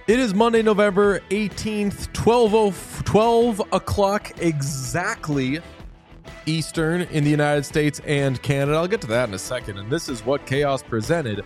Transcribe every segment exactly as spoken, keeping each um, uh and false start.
It is Monday, November eighteenth, twelve o'clock exactly Eastern in the United States and Canada. I'll get to that in a second. And this is What Chaos presented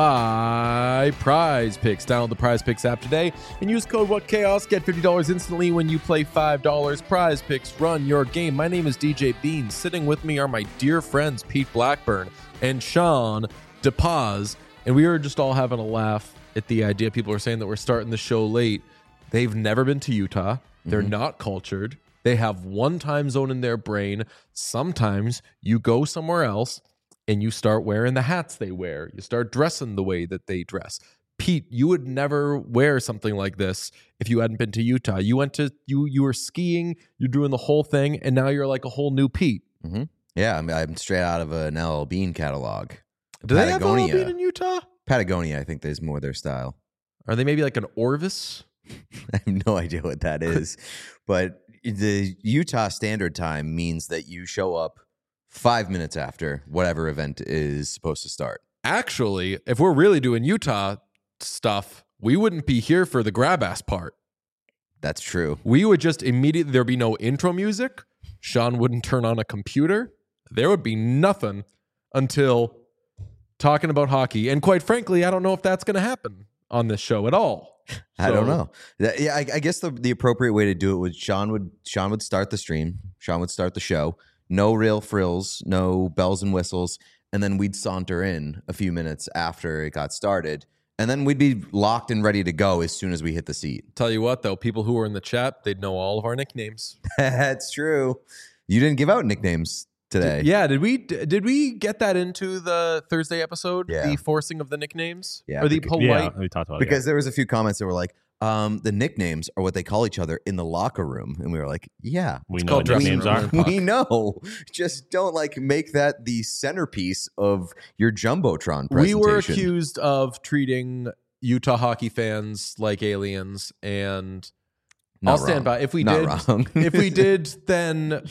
by Prize Picks. Download the Prize Picks app today and use code What Chaos. Get fifty dollars instantly when you play five dollars. Prize Picks, run your game. My name is D J Bean. Sitting with me are my dear friends Pete Blackburn and Sean DePaz. And we were just all having a laugh at the idea. People are saying that we're starting the show late. They've never been to Utah. They're mm-hmm. not cultured. They have one time zone in their brain. Sometimes you go somewhere else and you start wearing the hats they wear. You start dressing the way that they dress. Pete, you would never wear something like this if you hadn't been to Utah. You went to, you you were skiing, you're doing the whole thing, and now you're like a whole new Pete. Mm-hmm. Yeah, I'm, I'm straight out of an L L Bean catalog. Do they have L L Bean in Utah? Patagonia, I think, is more their style. Are they maybe like an Orvis? I have no idea what that is. But the Utah Standard Time means that you show up five minutes after whatever event is supposed to start. Actually, if we're really doing Utah stuff, we wouldn't be here for the grab ass part. That's true. We would just immediately, there'd be no intro music. Sean wouldn't turn on a computer. There would be nothing until talking about hockey. And quite frankly, I don't know if that's going to happen on this show at all. So, I don't know. Yeah, I, I guess the, the appropriate way to do it was Sean would Sean would start the stream. Sean would start the show. No real frills, no bells and whistles. And then we'd saunter in a few minutes after it got started. And then we'd be locked and ready to go as soon as we hit the seat. Tell you what, though, people who were in the chat, they'd know all of our nicknames. That's true. You didn't give out nicknames today. Did, yeah, did we did we get that into the Thursday episode? Yeah. The forcing of the nicknames? Yeah. Or the polite? Yeah, we talked about it. Because yeah. there was a few comments that were like, um, the nicknames are what they call each other in the locker room. And we were like, yeah. We it's know what nicknames are. We know. Just don't like make that the centerpiece of your Jumbotron presentation. We were accused of treating Utah hockey fans like aliens, and Not I'll stand wrong. by. If we Not did, wrong. if we did, then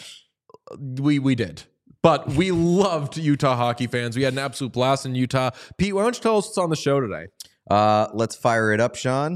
we we did. But we loved Utah hockey fans. We had an absolute blast in Utah. Pete, why don't you tell us what's on the show today? Uh, let's fire it up, Sean.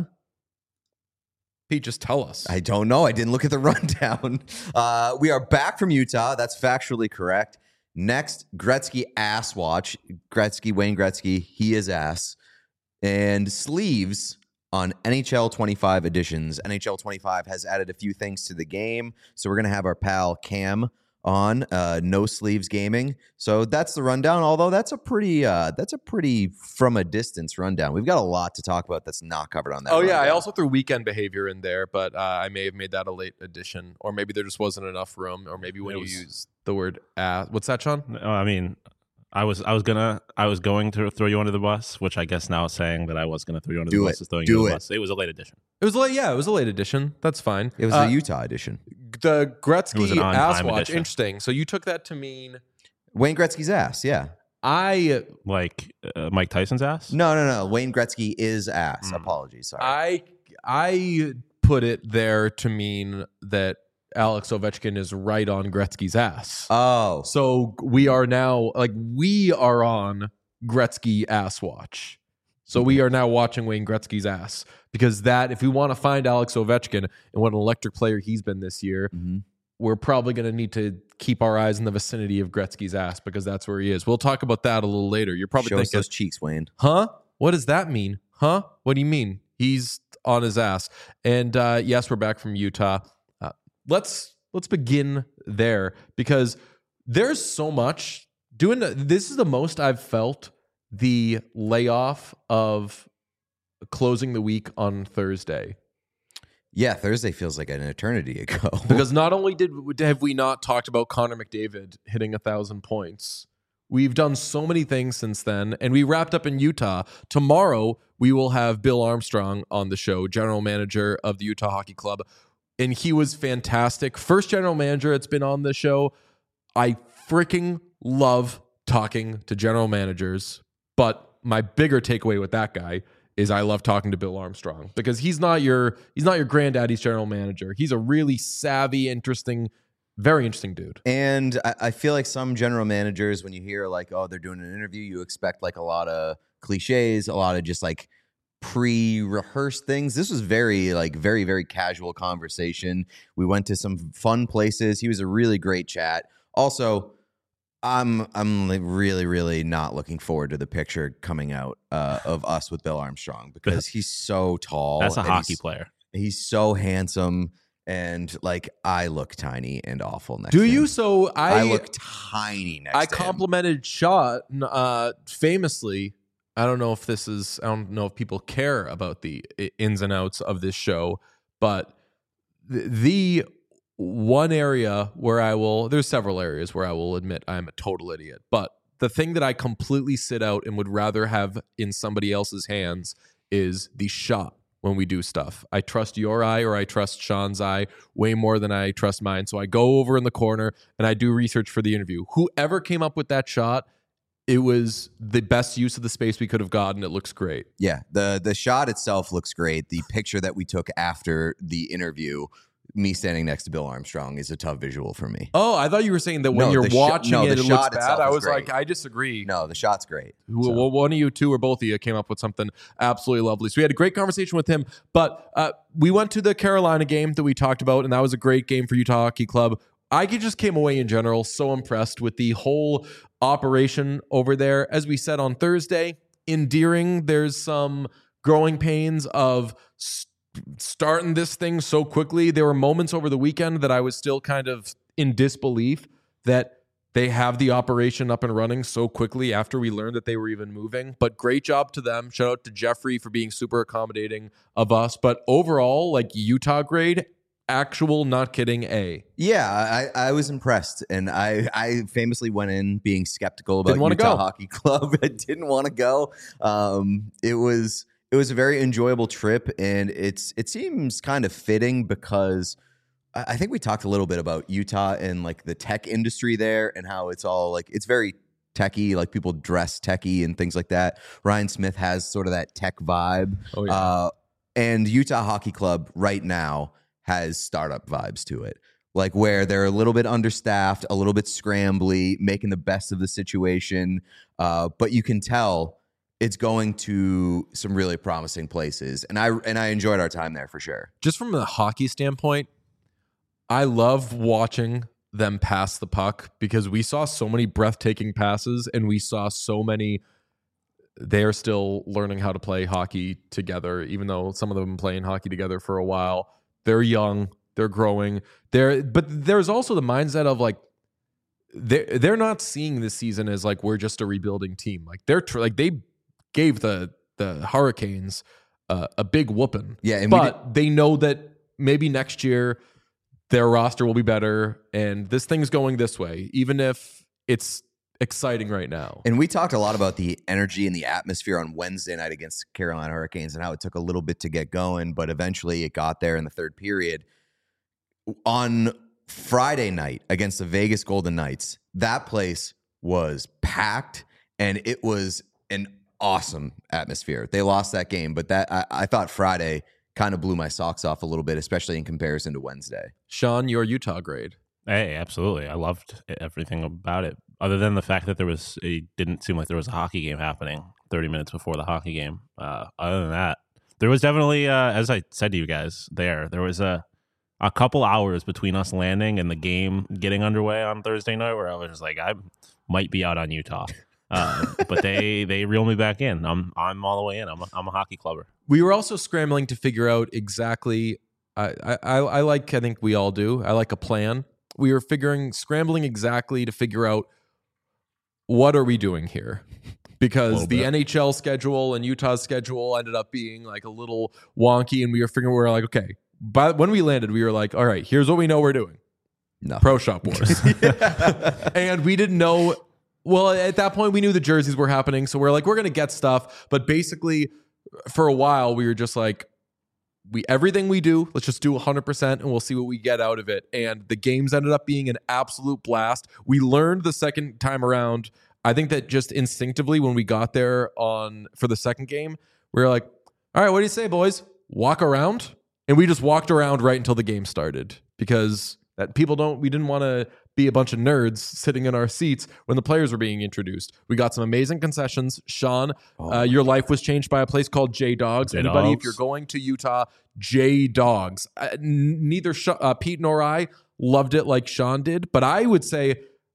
Pete, just tell us. I don't know. I didn't look at the rundown. Uh, we are back from Utah. That's factually correct. Next, Gretzky ass watch. Gretzky, Wayne Gretzky, he is ass. And sleeves on N H L twenty-five editions. N H L twenty-five has added a few things to the game. So we're going to have our pal Cam on uh, No Sleeves Gaming. So that's the rundown, although that's a pretty uh, that's a pretty from a distance rundown. We've got a lot to talk about that's not covered on that. Oh, yeah. rundown. I also threw weekend behavior in there, but uh, I may have made that a late addition, or maybe there just wasn't enough room, or maybe when It you was- use the word ass. What's that, Sean? No, I mean, I was I was gonna I was going to throw you under the bus, which I guess now is saying that I was gonna throw you under Do the it. bus is throwing Do you under it. the bus. It was a late edition. It was late. Yeah, it was a late edition. That's fine. It was Uh, the Utah edition. The It was Gretzky an on-time ass watch. edition. Interesting. So you took that to mean Wayne Gretzky's ass, yeah. I Like uh, Mike Tyson's ass. No, no, no. Wayne Gretzky is ass. Mm. Apologies. Sorry. I I put it there to mean that Alex Ovechkin is right on Gretzky's ass. oh. So we are now like we are on Gretzky ass watch. So we are now watching Wayne Gretzky's ass, because that if we want to find Alex Ovechkin and what an electric player he's been this year, Mhm. we're probably going to need to keep our eyes in the vicinity of Gretzky's ass, because that's where he is. We'll talk about that a little later. You're probably Show us thinking, those cheeks, Wayne. huh? What does that mean? Huh? What do you mean? He's on his ass. And uh, yes, we're back from Utah. Uh, let's let's begin there, because there's so much doing. This is the most I've felt the layoff of closing the week on Thursday. Yeah, Thursday feels like an eternity ago. Because not only did have we not talked about Connor McDavid hitting a thousand points, we've done so many things since then, and we wrapped up in Utah. Tomorrow we will have Bill Armstrong on the show, general manager of the Utah Hockey Club, and he was fantastic. First general manager that's been on the show. I freaking love talking to general managers, but my bigger takeaway with that guy is I love talking to Bill Armstrong, because he's not your he's not your granddaddy's general manager. He's a really savvy, interesting, very interesting dude. And I, I feel like some general managers, when you hear like, oh, they're doing an interview, you expect like a lot of cliches, a lot of just like pre-rehearsed things. This was very like very very casual conversation. We went to some fun places. He was a really great chat. Also, I'm I'm like really really not looking forward to the picture coming out uh, of us with Bill Armstrong because he's so tall. That's a and hockey he's, player. He's so handsome, and like I look tiny and awful next Do to him. you? So I, I look tiny next I to him. complimented Shot uh, famously. I don't know if this is, I don't know if people care about the ins and outs of this show, but the, the one area where I will, there's several areas where I will admit I'm a total idiot, but the thing that I completely sit out and would rather have in somebody else's hands is the shot when we do stuff. I trust your eye or I trust Sean's eye way more than I trust mine. So I go over in the corner and I do research for the interview. Whoever came up with that shot, it was the best use of the space we could have gotten. It looks great. Yeah, the the shot itself looks great. The picture that we took after the interview, me standing next to Bill Armstrong, is a tough visual for me. Oh, I thought you were saying that when No, you're the sh- watching no, it, the it shot looks bad. itself I is was great. like, I disagree. No, the shot's great. Well, So- one of you two or both of you came up with something absolutely lovely. So we had a great conversation with him. But uh, we went to the Carolina game that we talked about, and that was a great game for Utah Hockey Club. I just came away in general so impressed with the whole operation over there. As we said on Thursday, endearing. There's some growing pains of st- starting this thing so quickly. There were moments over the weekend that I was still kind of in disbelief that they have the operation up and running so quickly after we learned that they were even moving. But great job to them. Shout out to Jeffrey for being super accommodating of us. But overall, like Utah grade, actual, not kidding, A. Yeah, I, I was impressed, and I, I famously went in being skeptical about Didn't wanna Utah go. Hockey Club. I didn't want to go. Um, it was it was a very enjoyable trip, and it's it seems kind of fitting because I, I think we talked a little bit about Utah and like the tech industry there and how it's all like it's very techie, like people dress techie and things like that. Ryan Smith has sort of that tech vibe, Oh, yeah. uh, and Utah Hockey Club right now has startup vibes to it, like where they're a little bit understaffed, a little bit scrambly, making the best of the situation. Uh, but you can tell it's going to some really promising places, and I and I enjoyed our time there for sure. Just from a hockey standpoint, I love watching them pass the puck because we saw so many breathtaking passes and we saw so many. They're still learning how to play hockey together, even though some of them have been playing hockey together for a while. They're young, they're growing. They're, but there's also the mindset of like, they're, they're not seeing this season as like, we're just a rebuilding team. Like they're tr- like, they gave the, the Hurricanes uh, a big whooping. Yeah, and we but they know that maybe next year their roster will be better and this thing's going this way, even if it's exciting right now. And we talked a lot about the energy and the atmosphere on Wednesday night against Carolina Hurricanes and how it took a little bit to get going, but eventually it got there in the third period. On Friday night against the Vegas Golden Knights, that place was packed and it was an awesome atmosphere. They lost that game, but that I, I thought Friday kind of blew my socks off a little bit, especially in comparison to Wednesday. Sean, your Utah grade. Hey, absolutely. I loved everything about it, other than the fact that there was, it didn't seem like there was a hockey game happening thirty minutes before the hockey game. Uh, other than that, there was definitely, uh, as I said to you guys there, there was a, a couple hours between us landing and the game getting underway on Thursday night where I was just like, I might be out on Utah. Uh, but they, they reel me back in. I'm, I'm all the way in. I'm a, I'm a hockey clubber. We were also scrambling to figure out exactly, I, I, I like, I think we all do, I like a plan. We were figuring, scrambling exactly to figure out what are we doing here? Because the bit. N H L schedule and Utah's schedule ended up being like a little wonky, and we were figuring, we were like, okay, but when we landed, we were like, all right, here's what we know we're doing. No. Pro Shop Wars. And we didn't know, well, at that point, we knew the jerseys were happening, so we're like, we're going to get stuff. But basically, for a while, we were just like, we everything we do, let's just do one hundred percent and we'll see what we get out of it. And the games ended up being an absolute blast. We learned the second time around. I think that just instinctively when we got there on for the second game, we were like, all right, what do you say, boys? Walk around? And we just walked around right until the game started because That people don't, we didn't want to be a bunch of nerds sitting in our seats when the players were being introduced. We got some amazing concessions. Sean, Oh uh, your life was changed by a place called J Dogs. J Anybody, if Dogs. you're going to Utah, J Dogs. Uh, n- neither Sh- uh, Pete nor I loved it like Sean did, but I would say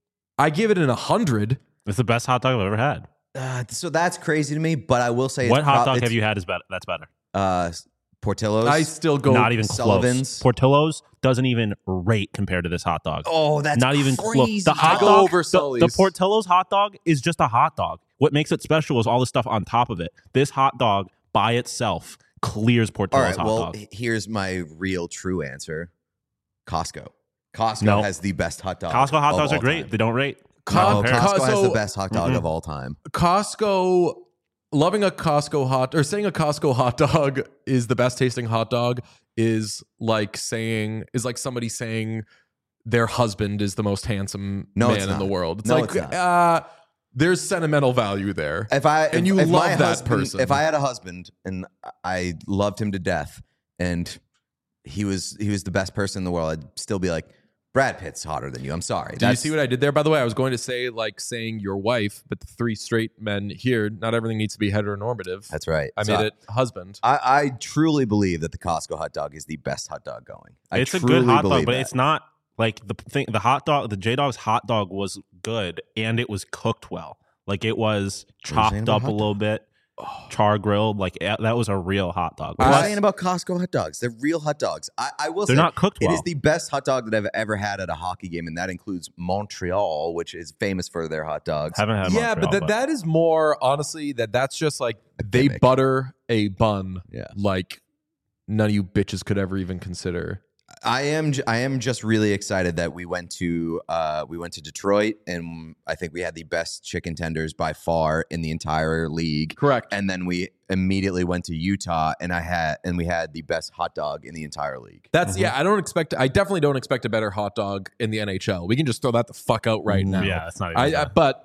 I give it an one hundred. It's the best hot dog I've ever had. Uh, so that's crazy to me, but I will say, What it's hot prob- dog it's, have you had is better? That's better. Uh, Portillo's. I still go Not even Sullivan's. close. Portillo's doesn't even rate compared to this hot dog. Oh, that's Not even crazy. close. The hot go dog, over the, Sully's. the Portillo's hot dog is just a hot dog. What makes it special is all the stuff on top of it. This hot dog by itself clears All Portillo's right. hot Well, dog. h- here's my real true answer. Costco. Costco No. has the best hot dog. Costco hot of dogs all are great. time. They don't rate. Co- Not No, compared. Co- Costco has so- the best hot dog Mhm. of all time. Costco, loving a Costco hot or saying a Costco hot dog is the best tasting hot dog is like saying is like somebody saying their husband is the most handsome No, man it's in not. the world. It's No, like it's not. uh there's sentimental value there. If I And if, you if love my that husband, person. If I had a husband and I loved him to death, and he was he was the best person in the world, I'd still be like, Brad Pitt's hotter than you. I'm sorry. Do you see what I did there? By the way, I was going to say like saying your wife, but the three straight men here, not everything needs to be heteronormative. That's right. I So made it husband. I, I truly believe that the Costco hot dog is the best hot dog going. I It's a truly good hot dog, believe but that. it's not like the thing. The hot dog, the J Dog's hot dog was good and it was cooked well. Like it was What are you saying chopped about up a hot little bit, char grilled. Like eh, that was a real hot dog. What are you I- saying about Costco hot dogs? They're real hot dogs. I, I will They're say not cooked it well. is the best hot dog that I've ever had at a hockey game, and that includes Montreal, which is famous for their hot dogs. Haven't had Yeah, but Montreal, that that is more honestly that that's just like they gimmick. butter a bun Yeah. like none of you bitches could ever even consider. I am j- I am just really excited that we went to uh, we went to Detroit, and I think we had the best chicken tenders by far in the entire league. Correct. And then we immediately went to Utah, and I had and we had the best hot dog in the entire league. That's yeah. I don't expect. I definitely don't expect a better hot dog in the N H L. We can just throw that the fuck out right now. Yeah, it's not even. I, I that. but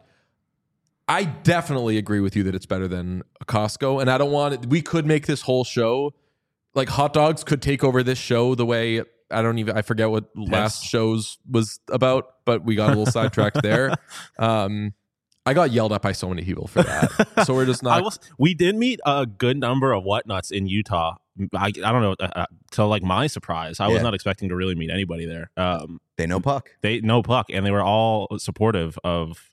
I definitely agree with you that it's better than a Costco, and I don't want it. We could make this whole show like hot dogs could take over this show the way I don't even I forget what last show's was about, but we got a little sidetracked there. Um, I got yelled at by so many people for that, so we're just I not. was. We did meet a good number of whatnots in Utah. I, I don't know. Uh, uh, to like my surprise, I Yeah. was not expecting to really meet anybody there. Um, They know puck. they no puck, and they were all supportive of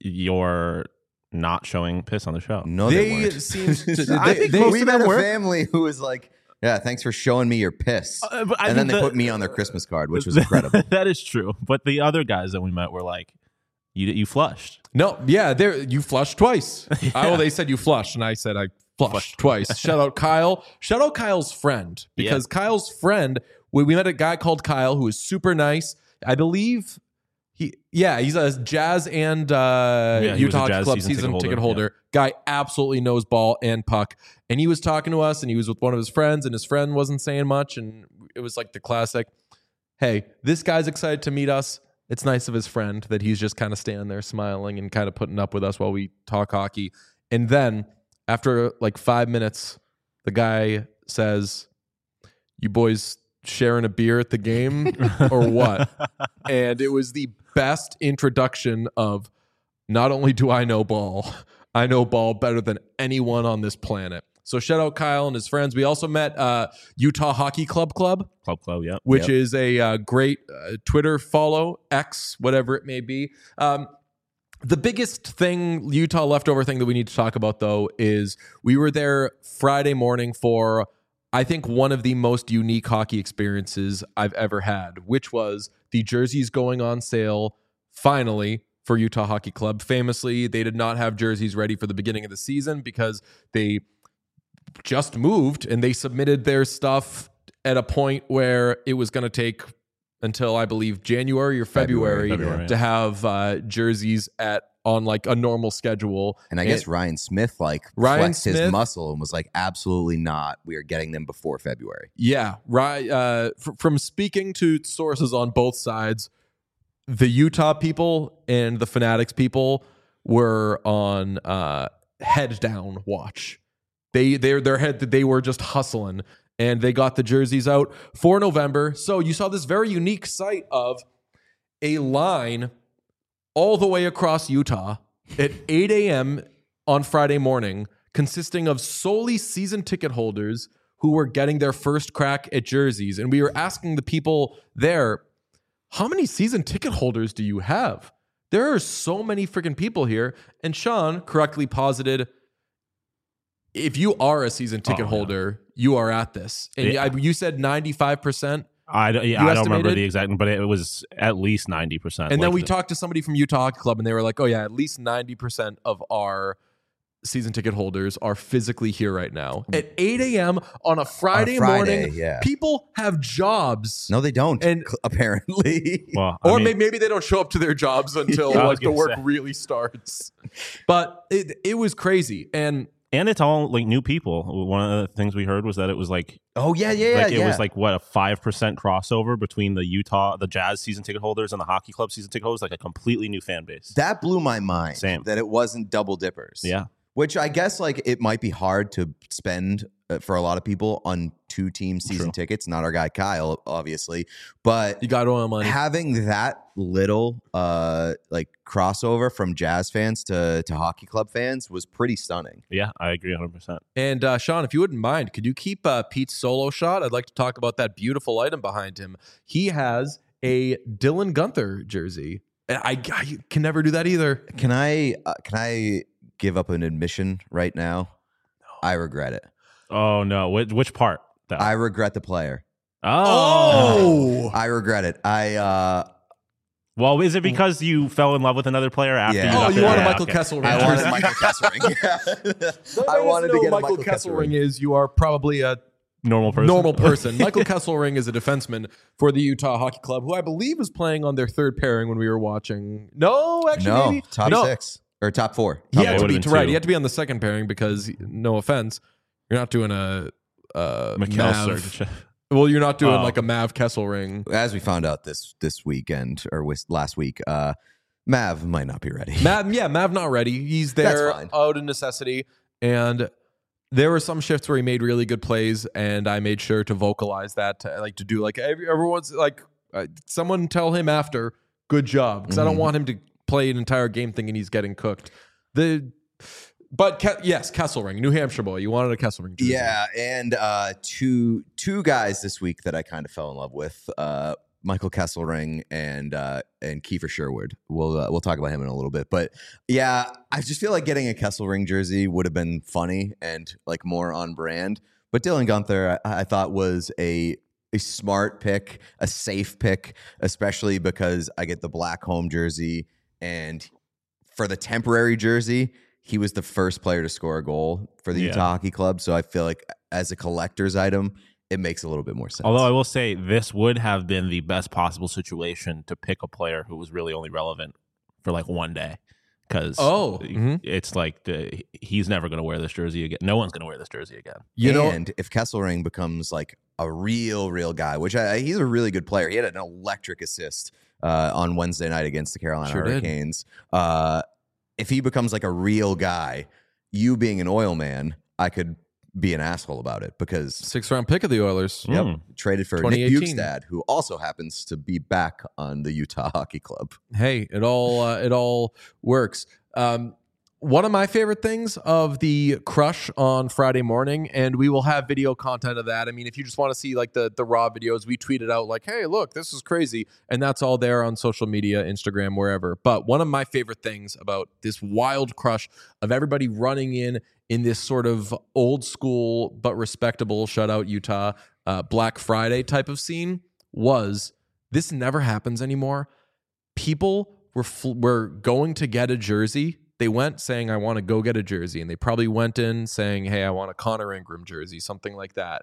your not showing piss on the show. No, they, They weren't. seem to- I they- think they- most we of met them a were. family who was like, "Yeah, thanks for showing me your piss," Uh, but I and then think they the- put me on their Christmas card, which was incredible. that is true. But the other guys that we met were like, "You you flushed." No, yeah, there you flushed twice. I, well, they said you flushed, and I said I flushed twice. Shout out Kyle. Shout out Kyle's friend because Kyle's friend. We, we met a guy called Kyle who is super nice. I believe he, yeah, he's a Jazz and uh, Yeah, he was a Utah Hockey Jazz Club season season ticket ticket holder, holder. Guy absolutely knows ball and puck, and he was talking to us, and he was with one of his friends, and his friend wasn't saying much, and it was like the classic. Hey, this guy's excited to meet us. It's nice of his friend that he's just kind of standing there smiling and kind of putting up with us while we talk hockey. And then after like five minutes, the guy says, "You boys sharing a beer at the game or what?" And it was the best introduction of not only do I know ball, I know ball better than anyone on this planet. So shout out Kyle and his friends. We also met uh, Utah Hockey Club Club, Club Club, yeah. which Yep. is a uh, great uh, Twitter follow, X, whatever it may be. Um, the biggest thing, Utah leftover thing that we need to talk about, though, is we were there Friday morning for, I think, one of the most unique hockey experiences I've ever had, which was the jerseys going on sale finally for Utah Hockey Club. Famously, they did not have jerseys ready for the beginning of the season because they just moved and they submitted their stuff at a point where it was going to take until I believe January or February, February, February, to yeah. have uh, jerseys at on like a normal schedule. And I guess Ryan Smith like Ryan flexed Smith- his muscle and was like, "Absolutely not. We are getting them before February." Yeah, right. Uh, fr- from speaking to sources on both sides, the Utah people and the Fanatics people were on uh, head down watch. They they their head they were just hustling, and they got the jerseys out for November. So you saw this very unique sight of a line all the way across Utah at eight a.m. on Friday morning, consisting of solely season ticket holders who were getting their first crack at jerseys. And we were asking the people there, how many season ticket holders do you have? There are so many freaking people here. And Sean correctly posited, if you are a season ticket Oh, holder, you are at this. And Yeah. I, you said ninety-five percent. I don't, yeah, You I don't remember estimated? the exact, but it was at least ninety percent. And then Like we the- talked to somebody from Utah Hockey Club, and they were like, oh, yeah, at least ninety percent of our season ticket holders are physically here right now. At eight a.m. on a Friday, Friday, morning, yeah. people have jobs. No, they don't. And- cl- apparently. Well, I Or mean, may- maybe they don't show up to their jobs until I was like the gonna work say. really starts. But it, it was crazy. And and it's all like new people. One of the things we heard was that it was like, oh yeah, yeah, yeah. like it yeah. was like what a five percent crossover between the Utah, the Jazz season ticket holders and the Hockey Club season ticket holders, like a completely new fan base. that blew my mind. Same. That it wasn't double dippers. Yeah. Which I guess like it might be hard to spend uh, for a lot of people on two team season True. tickets. Not our guy Kyle, obviously, but you got oil money. having that little uh like crossover from Jazz fans to to Hockey Club fans was pretty stunning. Yeah, I agree one hundred percent. And uh, Sean, if you wouldn't mind, could you keep uh, Pete's solo shot? I'd like to talk about that beautiful item behind him. He has a Dylan Gunther jersey. And I, I can never do that either. Can I uh, can I give up an admission right now? I regret it. Oh no, which, which part? Though? I regret the player. oh. I regret it. I uh Well, is it because you fell in love with another player after? Yeah. you Oh, got you the- want a yeah, Michael okay. Kessel I ring wanted jersey. Michael Kesselring. I wanted to know get a Michael Michael Kesselring Kesselring. is. You are probably a normal person. normal person. Michael Kesselring is a defenseman for the Utah Hockey Club, who I believe was playing on their third pairing when we were watching. No, actually, No, maybe top no. six or top four. He Okay, had it to would've be been right. two. He had to be on the second pairing because, no offense, you're not doing a uh, Mikhail Mav. Sergachev. Well, you're not doing Oh. like a Mav Kesselring. As we found out this this weekend or with last week, uh, Mav might not be ready. Mav, yeah, Mav not ready. He's That's there fine. out of necessity, and there were some shifts where he made really good plays, and I made sure to vocalize that, to, like to do like every, everyone's like uh, someone tell him after, good job, because I don't Mhm. want him to play an entire game thinking he's getting cooked. The but Ke- yes, Kesselring, New Hampshire boy, you wanted a Kesselring jersey. Yeah, and uh, two two guys this week that I kind of fell in love with, uh, Michael Kesselring and uh, and Kiefer Sherwood. We'll uh, we'll talk about him in a little bit, but yeah, I just feel like getting a Kesselring jersey would have been funny and like more on brand. But Dylan Gunther, I, I thought was a a smart pick, a safe pick, especially because I get the black home jersey, and for the temporary jersey, he was the first player to score a goal for the Yeah. Utah Hockey Club. So I feel like as a collector's item, it makes a little bit more sense. Although I will say this would have been the best possible situation to pick a player who was really only relevant for like one day. Because Oh, mhm. it's like the, he's never going to wear this jersey again. No one's going to wear this jersey again. you know, and if Kesselring becomes like a real, real guy, which I, he's a really good player. He had an electric assist uh, on Wednesday night against the Carolina Sure did. Hurricanes. Uh, if he becomes like a real guy, you being an oil man, I could be an asshole about it because sixth round pick of the Oilers. yep, Mm. traded for Nick twenty eighteen. Bukestad, who also happens to be back on the Utah Hockey Club. Hey, it all uh, it all works. Um, one of my favorite things of the crush on Friday morning, and we will have video content of that. I mean, if you just want to see like the the raw videos, we tweeted out like, "Hey, look, this is crazy," and that's all there on social media, Instagram, wherever. But one of my favorite things about this wild crush of everybody running in in this sort of old school but respectable shutout Utah uh, Black Friday type of scene was this never happens anymore. People were fl- were going to get a jersey. They went saying, I want to go get a jersey. And they probably went in saying, hey, I want a Connor Ingram jersey, something like that.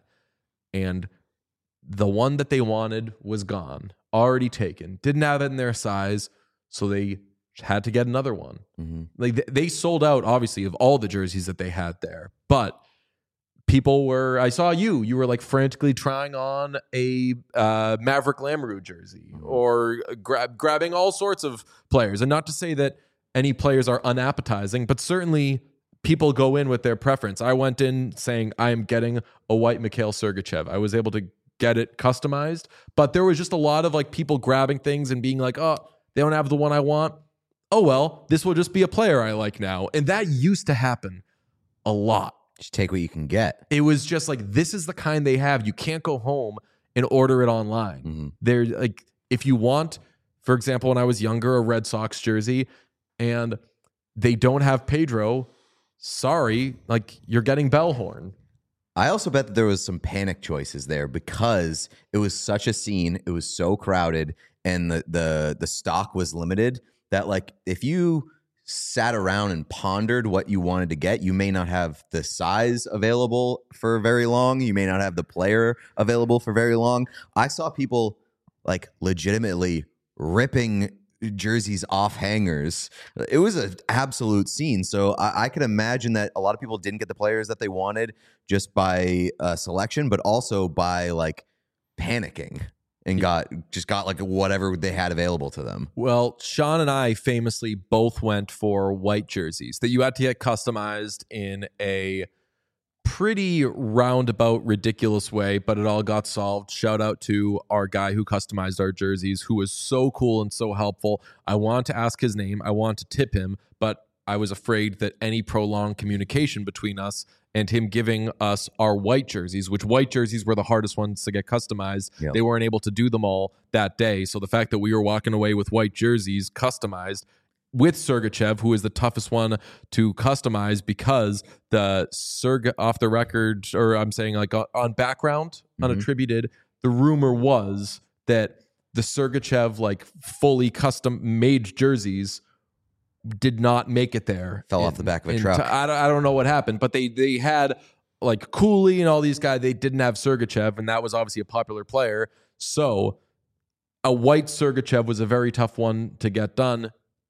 And the one that they wanted was gone, already taken, didn't have it in their size. So they had to get another one. Mm-hmm. Like th- they sold out, obviously, of all the jerseys that they had there. But people were, I saw you, you were like frantically trying on a uh, Maverick Lamoureux jersey or grab, grabbing all sorts of players. And not to say that any players are unappetizing, but certainly people go in with their preference. I went in saying I am getting a white Mikhail Sergachev. I was able to get it customized, but there was just a lot of like people grabbing things and being like, oh, they don't have the one I want. Oh, well, this will just be a player I like now. And that used to happen a lot. Just take what you can get. It was just like, this is the kind they have. You can't go home and order it online. Mm-hmm. They're like, if you want, for example, when I was younger, a Red Sox jersey and they don't have Pedro, sorry, like you're getting Bellhorn. I also bet that there was some panic choices there because it was such a scene. It was so crowded and the the the stock was limited that like if you sat around and pondered what you wanted to get, you may not have the size available for very long. You may not have the player available for very long. I saw people like legitimately ripping jerseys off hangers. It was an absolute scene. So I, I could imagine that a lot of people didn't get the players that they wanted just by uh, selection, but also by like panicking and got just got like whatever they had available to them. Well, Sean and I famously both went for white jerseys that you had to get customized in a pretty roundabout, ridiculous way, but it all got solved. Shout out to our guy who customized our jerseys, who was so cool and so helpful. I wanted to ask his name. I wanted to tip him, but I was afraid that any prolonged communication between us and him giving us our white jerseys, which white jerseys were the hardest ones to get customized. Yep. They weren't able to do them all that day. So the fact that we were walking away with white jerseys customized with Sergachev, who is the toughest one to customize because the Serg off the record, or I'm saying like on background, mm-hmm. unattributed, the rumor was that the Sergachev like fully custom made jerseys did not make it there. Fell in, off the back of a in, truck. I don't, I don't know what happened, but they they had like Cooley and all these guys. They didn't have Sergachev, and that was obviously a popular player. So a white Sergachev was a very tough one to get done.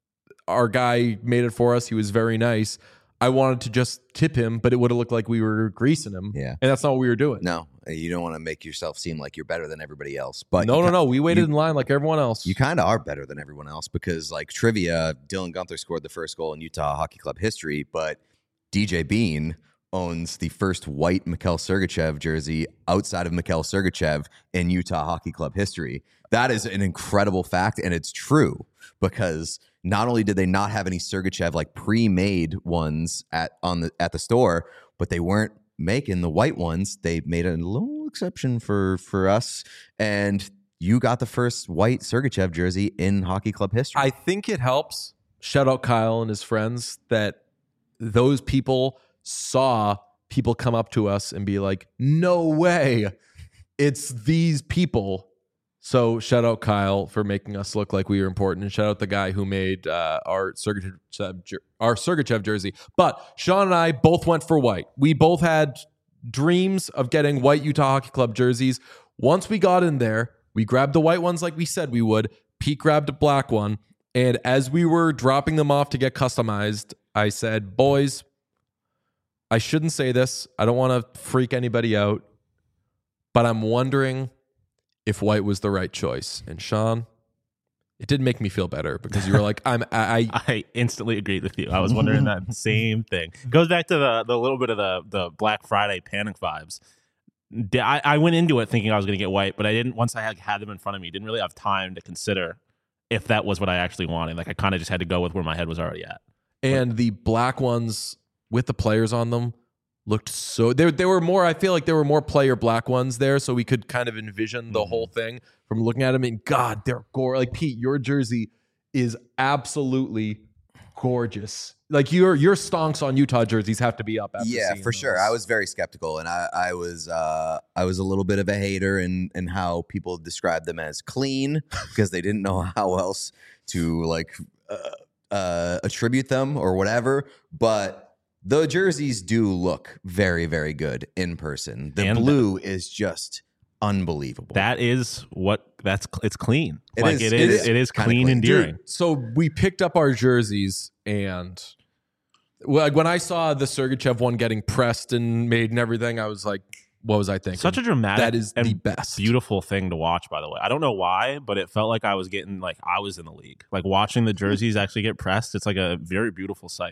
Our guy made it for us. He was very nice. I wanted to just tip him, but it would have looked like we were greasing him. Yeah. And that's not what we were doing. No, you don't want to make yourself seem like you're better than everybody else. But no, no, no. We waited you, in line like everyone else. You kind of are better than everyone else because, like, trivia, Dylan Gunther scored the first goal in Utah Hockey Club history, but D J Bean owns the first white Mikhail Sergachev jersey outside of Mikhail Sergachev in Utah Hockey Club history. That is an incredible fact, and it's true because not only did they not have any Sergachev like pre-made ones at on the at the store, but they weren't making the white ones. They made a little exception for for us, and you got the first white Sergachev jersey in Hockey Club history. I think it helps. Shout out Kyle and his friends that those people saw people come up to us and be like, "No way, it's these people." So shout out Kyle for making us look like we were important, and shout out the guy who made uh, our Sergachev our Sergachev jersey. But Sean and I both went for white. We both had dreams of getting white Utah Hockey Club jerseys. Once we got in there, we grabbed the white ones like we said we would. Pete grabbed a black one, and as we were dropping them off to get customized, I said, "Boys, I shouldn't say this. I don't want to freak anybody out, but I'm wondering if white was the right choice." And Sean, it didn't make me feel better because you were like, I'm, I, I, I instantly agreed with you. I was wondering that same thing. It goes back to the, the little bit of the, the Black Friday panic vibes. I, I went into it thinking I was going to get white, but I didn't, once I had, had them in front of me, didn't really have time to consider if that was what I actually wanted. Like I kind of just had to go with where my head was already at. And but, the black ones with the players on them looked so there there were more I feel like there were more player black ones there, so we could kind of envision the mm-hmm. whole thing from looking at them. And God, they're gore. Like Pete, your jersey is absolutely gorgeous. Like your your stonks on Utah jerseys have to be up after yeah, seeing for those. sure. I was very skeptical, and I, I was uh, I was a little bit of a hater in, in how people described them as clean because they didn't know how else to like uh, uh, attribute them or whatever. But the jerseys do look very, very good in person. The and blue is just unbelievable. That is what that's it's clean. It like is, it, it is, is it is clean, clean. endearing. Dude, so we picked up our jerseys, and like when I saw the Sergachev one getting pressed and made and everything, I was like, what was I thinking? Such a dramatic that is and the best. Beautiful thing to watch, by the way. I don't know why, but it felt like I was getting like I was in the league. Like watching the jerseys actually get pressed, it's like a very beautiful sight.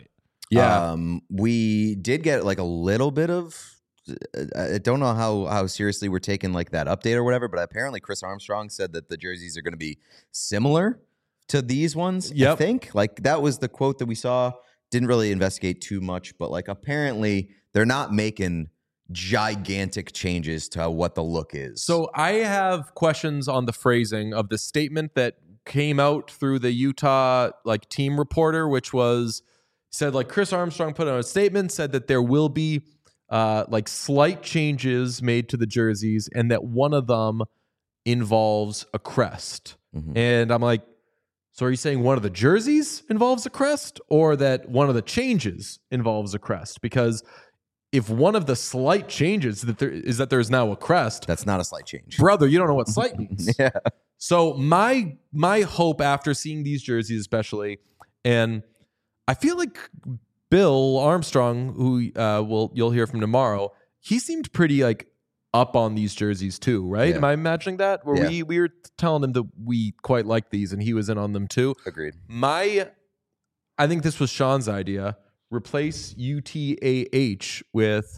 Yeah. Um, we did get like a little bit of. I don't know how how seriously we're taking like that update or whatever, but apparently Chris Armstrong said that the jerseys are going to be similar to these ones. Yep. I think like that was the quote that we saw. Didn't really investigate too much, but like apparently they're not making gigantic changes to what the look is. So I have questions on the phrasing of the statement that came out through the Utah like team reporter, which was said like Chris Armstrong put out a statement, said that there will be uh, like slight changes made to the jerseys and that one of them involves a crest. Mhm. And I'm like, so are you saying one of the jerseys involves a crest or that one of the changes involves a crest? Because if one of the slight changes that there is that there's now a crest, that's not a slight change. brother, you don't know what slight means. Yeah. So my my hope after seeing these jerseys, especially, and I feel like Bill Armstrong, who uh, will you'll hear from tomorrow, he seemed pretty like up on these jerseys too, right? Yeah. Am I imagining that? Where Yeah. we we were telling him that we quite like these, and he was in on them too. Agreed. My, I think this was Sean's idea. Replace U T A H with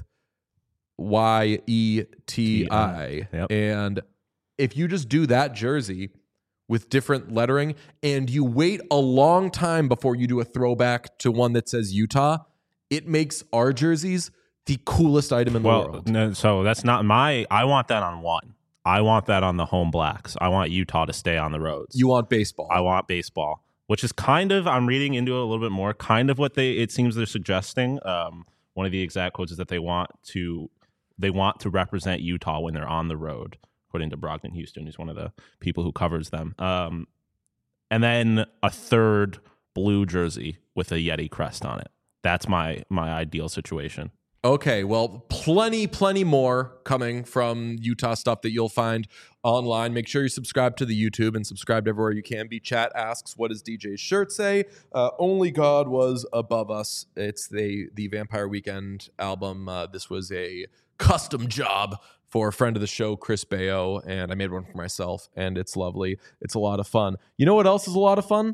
Y E T I. Yep. And if you just do that jersey with different lettering and you wait a long time before you do a throwback to one that says Utah, it makes our jerseys the coolest item in the Well, world. no, so that's not my. I want that on one. I want that on the home blacks. I want Utah to stay on the roads. You want baseball. I want baseball, which is kind of, I'm reading into it a little bit more, kind of what they, it seems they're suggesting. Um, one of the exact quotes is that they want to, they want to represent Utah when they're on the road, according to Brogdon Houston, who's one of the people who covers them. Um, and then a third blue jersey with a Yeti crest on it. That's my my ideal situation. Okay, well, plenty, plenty more coming from Utah stuff that you'll find online. Make sure you subscribe to the YouTube and subscribe everywhere you can be. Chat asks, what does D J's shirt say? Uh, Only God Was Above Us. It's the, the Vampire Weekend album. Uh, this was a custom job for a friend of the show, Chris Bayo, and I made one for myself, and it's lovely. It's a lot of fun. You know what else is a lot of fun?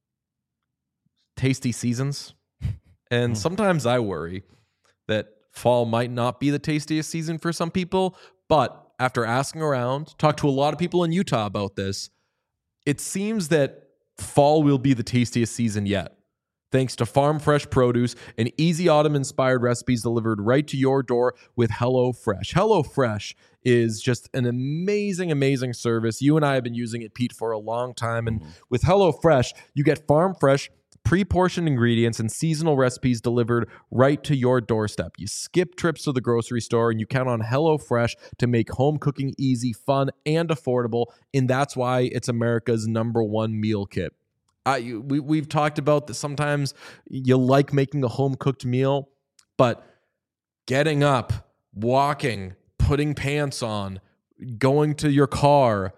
Tasty seasons. And sometimes I worry that fall might not be the tastiest season for some people, but after asking around, talked to a lot of people in Utah about this, it seems that fall will be the tastiest season yet. Thanks to farm fresh produce and easy autumn-inspired recipes delivered right to your door with HelloFresh. HelloFresh is just an amazing, amazing service. You and I have been using it, Pete, for a long time. And with HelloFresh, you get farm fresh, pre-portioned ingredients and seasonal recipes delivered right to your doorstep. You skip trips to the grocery store and you count on HelloFresh to make home cooking easy, fun, and affordable. And that's why it's America's number one meal kit. I, we, we've talked about that sometimes you like making a home-cooked meal, but getting up, walking, putting pants on, going to your car,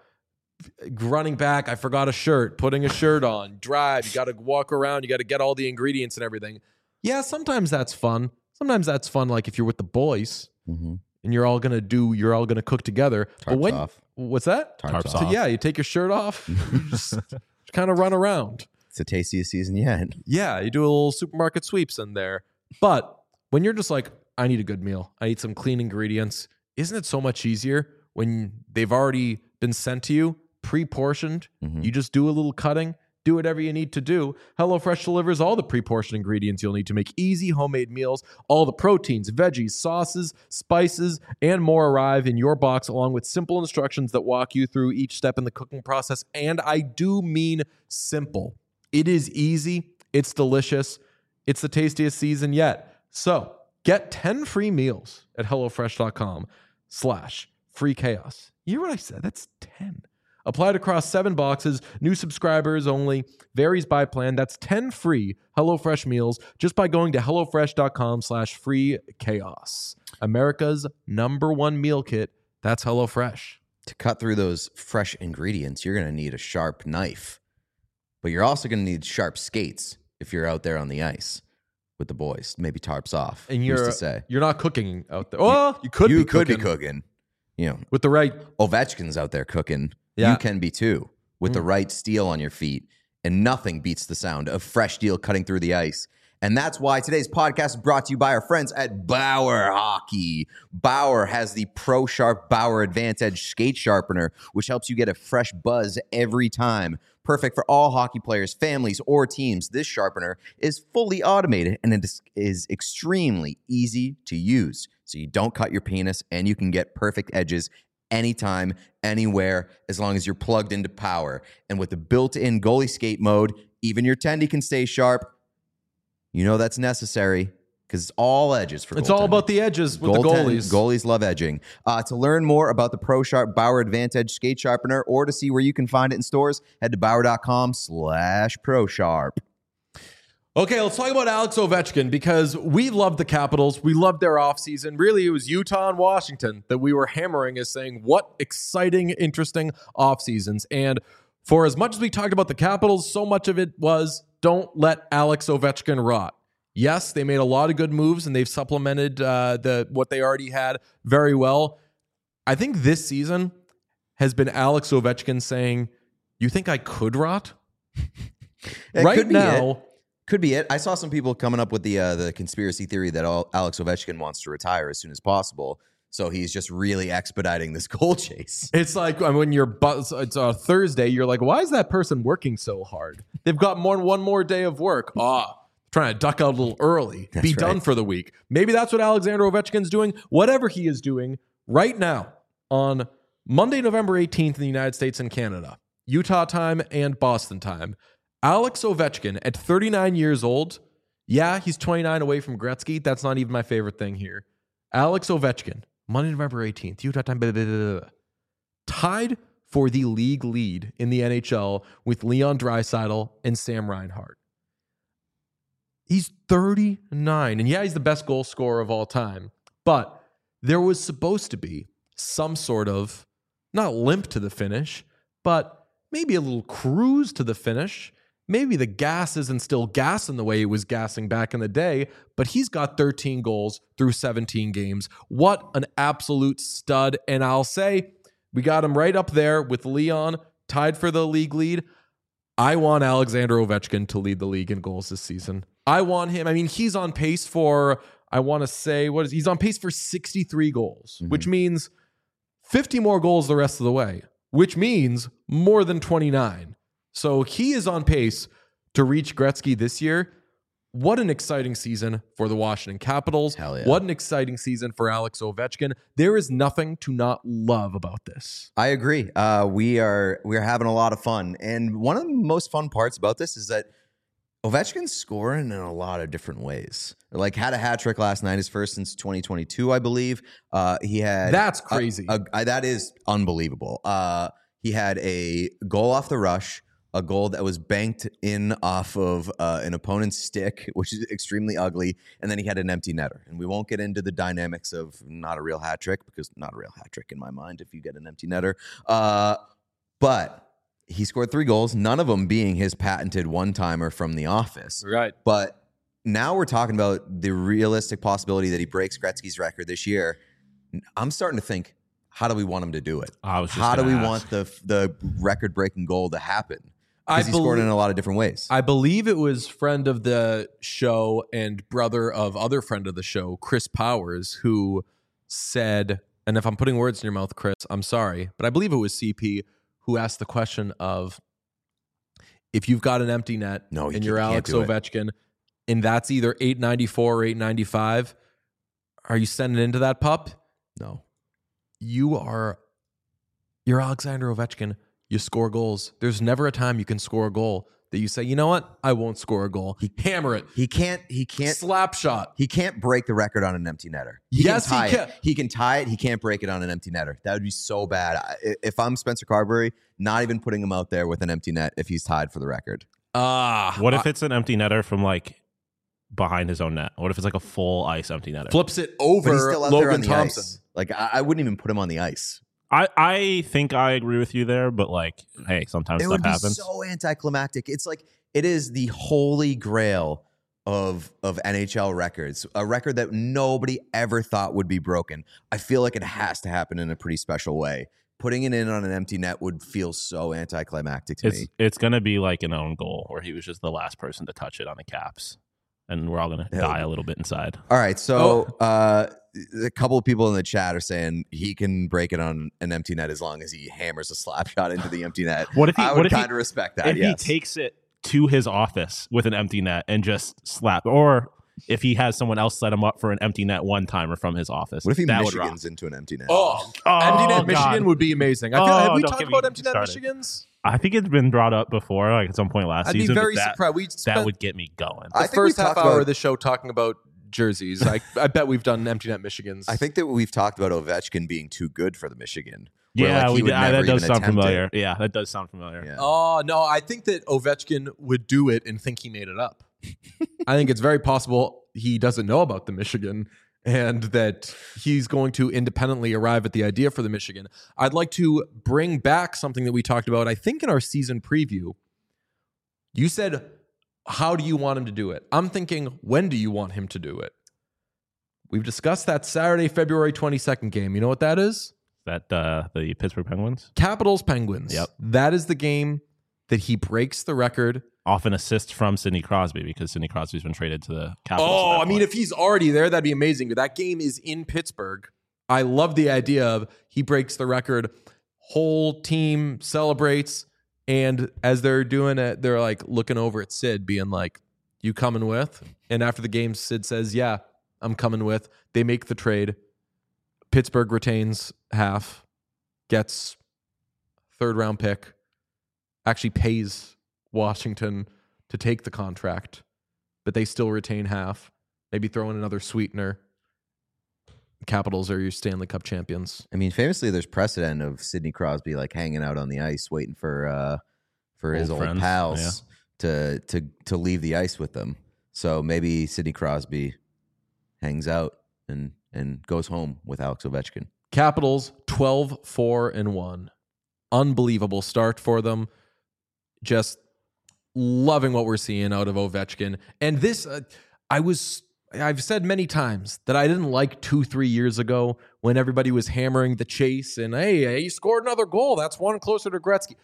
running back, I forgot a shirt, putting a shirt on, drive, you got to walk around, you got to get all the ingredients and everything. Yeah, sometimes that's fun. Sometimes that's fun, like if you're with the boys Mm-hmm. and you're all gonna do, you're all gonna cook together. But Tarps when, off. what's that? Tarps Tarps off. So yeah, you take your shirt off, you just kind of run around. It's the tastiest season yet. Yeah, you do a little supermarket sweeps in there. But when you're just like, I need a good meal, I need some clean ingredients, isn't it so much easier when they've already been sent to you, pre-portioned? Mm-hmm. You just do a little cutting, do whatever you need to do. HelloFresh delivers all the pre-portioned ingredients you'll need to make easy homemade meals. All the proteins, veggies, sauces, spices, and more arrive in your box along with simple instructions that walk you through each step in the cooking process. And I do mean simple. It is easy. It's delicious. It's the tastiest season yet. So get ten free meals at HelloFresh.com slash free chaos. You hear what I said? That's ten. Applied across seven boxes, new subscribers only, varies by plan. That's ten free HelloFresh meals just by going to HelloFresh.com slash free chaos. America's number one meal kit. That's HelloFresh. To cut through those fresh ingredients, you're going to need a sharp knife. But you're also going to need sharp skates if you're out there on the ice with the boys. Maybe tarps off. And Who's you're to say? you're not cooking out there. Well, you could you be could cooking be cooking. You know, with the right. Ovechkin's out there cooking. Yeah. You can be too with the Mm. right steel on your feet. And nothing beats the sound of fresh steel cutting through the ice And that's why today's podcast is brought to you by our friends at Bauer Hockey. Bauer has the Pro Sharp Bauer Advantage Skate Sharpener, which helps you get a fresh buzz every time. Perfect for all hockey players, families, or teams. This sharpener is fully automated and it is, is extremely easy to use. So you don't cut your penis and you can get perfect edges anytime, anywhere, as long as you're plugged into power. And with the built-in goalie skate mode, even your tendy can stay sharp. You know that's necessary because it's all edges for It's all goaltending. about the edges with Goaltend- the goalies. Goalies love edging. Uh, to learn more about the Pro Sharp Bauer Advantage Skate Sharpener or to see where you can find it in stores, head to Bauer.com slash Pro Sharp. Okay, let's talk about Alex Ovechkin because we loved the Capitals. We loved their offseason. Really, it was Utah and Washington that we were hammering as saying, what exciting, interesting offseasons. And for as much as we talked about the Capitals, so much of it was don't let Alex Ovechkin rot. Yes, they made a lot of good moves and they've supplemented uh, the what they already had very well. I think this season has been Alex Ovechkin saying, you think I could rot? It right could be now... it. Could be it. I saw some people coming up with the uh, the conspiracy theory that all Alex Ovechkin wants to retire as soon as possible. So he's just really expediting this goal chase. It's like when you're bu- it's a Thursday, you're like, why is that person working so hard? They've got more one more day of work. Ah, trying to duck out a little early, That's be right. done for the week. Maybe that's what Alexander Ovechkin's doing. Whatever he is doing right now on Monday, November eighteenth in the United States and Canada, Utah time and Boston time. Alex Ovechkin at thirty-nine years old, yeah, he's twenty-nine away from Gretzky. That's not even my favorite thing here. Alex Ovechkin, Monday, November eighteenth, Utah time, blah, blah, blah, blah, tied for the league lead in the N H L with Leon Draisaitl and Sam Reinhart. He's thirty-nine, and yeah, he's the best goal scorer of all time, but there was supposed to be some sort of, not limp to the finish, but maybe a little cruise to the finish. Maybe the gas isn't still gassing the way it was gassing back in the day, but he's got thirteen goals through seventeen games. What an absolute stud. And I'll say, we got him right up there with Leon, tied for the league lead. I want Alexander Ovechkin to lead the league in goals this season. I want him. I mean, he's on pace for, I want to say, what is he's on pace for sixty-three goals, mm-hmm. which means fifty more goals the rest of the way, which means more than twenty-nine. So he is on pace to reach Gretzky this year. What an exciting season for the Washington Capitals. Hell yeah. What an exciting season for Alex Ovechkin. There is nothing to not love about this. I agree. Uh, we are we are having a lot of fun. And one of the most fun parts about this is that Ovechkin's scoring in a lot of different ways. Like had a hat trick last night, his first since twenty twenty-two, I believe. Uh, he had That's crazy. A, a, that is unbelievable. Uh, he had a goal off the rush, a goal that was banked in off of uh, an opponent's stick, which is extremely ugly, and then he had an empty netter. And we won't get into the dynamics of not a real hat trick, because not a real hat trick in my mind if you get an empty netter. Uh, but he scored three goals, none of them being his patented one-timer from The Office. Right. But now we're talking about the realistic possibility that he breaks Gretzky's record this year. I'm starting to think, how do we want him to do it? I was just how do we gonna want ask. the the record-breaking goal to happen? I Because he scored belie- in a lot of different ways. I believe it was friend of the show and brother of other friend of the show, Chris Powers, who said, and if I'm putting words in your mouth, Chris, I'm sorry, but I believe it was C P who asked the question of, if you've got an empty net No, you and you're can't- Alex can't do it. Ovechkin, and that's either eight ninety-four or eight ninety-five, are you sending into that pup? no. You are, you're Alexander Ovechkin. You score goals. There's never a time you can score a goal that you say, you know what? I won't score a goal. He hammer it. He can't he can't Slap shot. he can't break the record on an empty netter. He Yes, can he tie can. it. He can tie it. He can't break it on an empty netter. That would be so bad. I- If I'm Spencer Carberry, not even putting him out there with an empty net if he's tied for the record. Ah. What if it's an empty netter from like behind his own net? What if it's like a full ice empty netter? flips it But he's over still out there on Logan the Thompson? ice. Like I, I wouldn't even put him on the ice. I, I think I agree with you there, but like, hey, sometimes It stuff would be happens. so anticlimactic. It's like it is the holy grail of of N H L records, a record that nobody ever thought would be broken. I feel like it has to happen in a pretty special way. Putting it in on an empty net would feel so anticlimactic to it's me. it's gonna be like an own goal where he was just the last person to touch it on the Caps. and we're all gonna Hell. die a little bit inside. All right, so uh, a couple of people in the chat are saying he can break it on an empty net as long as he hammers a slap shot into the empty net. What if he? I what would if he, kind of respect that. if Yes. he takes it to his office with an empty net and just slap, or if he has someone else set him up for an empty net one timer from his office? What if he that would rock. Michigans into an empty net? Oh, Oh, empty net God. Michigan would be amazing. I feel, Oh, have we don't talked get me about empty net started. Michigans? I think it's been brought up before, like at some point last I'd be season. but very that, surprised. We that spent would get me going. I the think we've first half talked hour about- of the show talking about jerseys. I, I bet we've done empty net Michigans. I think that we've talked about Ovechkin being too good for the Michigan. where, yeah, like, he we would did, uh, never that does even sound attempt it. familiar. Yeah, that does sound familiar. Yeah. Oh, no, I think that Ovechkin would do it and think he made it up. I think it's very possible he doesn't know about the Michigan and that he's going to independently arrive at the idea for the Michigan. I'd like to bring back something that we talked about, I think, in our season preview. You said, how do you want him to do it? I'm thinking, when do you want him to do it? We've discussed that Saturday, February twenty-second game. You know what that is? That uh, the Pittsburgh Penguins, Capitals Penguins. Yep. That is the game that he breaks the record. off an assist from Sidney Crosby because Sidney Crosby's been traded to the Capitals. Oh, at that I mean, point. if he's already there, that'd be amazing. But that game is in Pittsburgh. I love the idea of he breaks the record, whole team celebrates, and as they're doing it, they're like looking over at Sid, being like, "You coming with?" And after the game, Sid says, "Yeah, I'm coming with." They make the trade. Pittsburgh retains half, gets third round pick, actually pays Washington to take the contract, but they still retain half. Maybe throw in another sweetener. The Capitals are your Stanley Cup champions. I mean, famously, there's precedent of Sidney Crosby like hanging out on the ice, waiting for uh, for his Old old friends, pals to to to leave the ice with them. So maybe Sidney Crosby hangs out and and goes home with Alex Ovechkin. Capitals twelve four and one. Unbelievable start for them. Just loving what we're seeing out of Ovechkin. And this, uh, I was, I've said many times that I didn't like two, three years ago when everybody was hammering the chase and, hey, he scored another goal. That's one closer to Gretzky.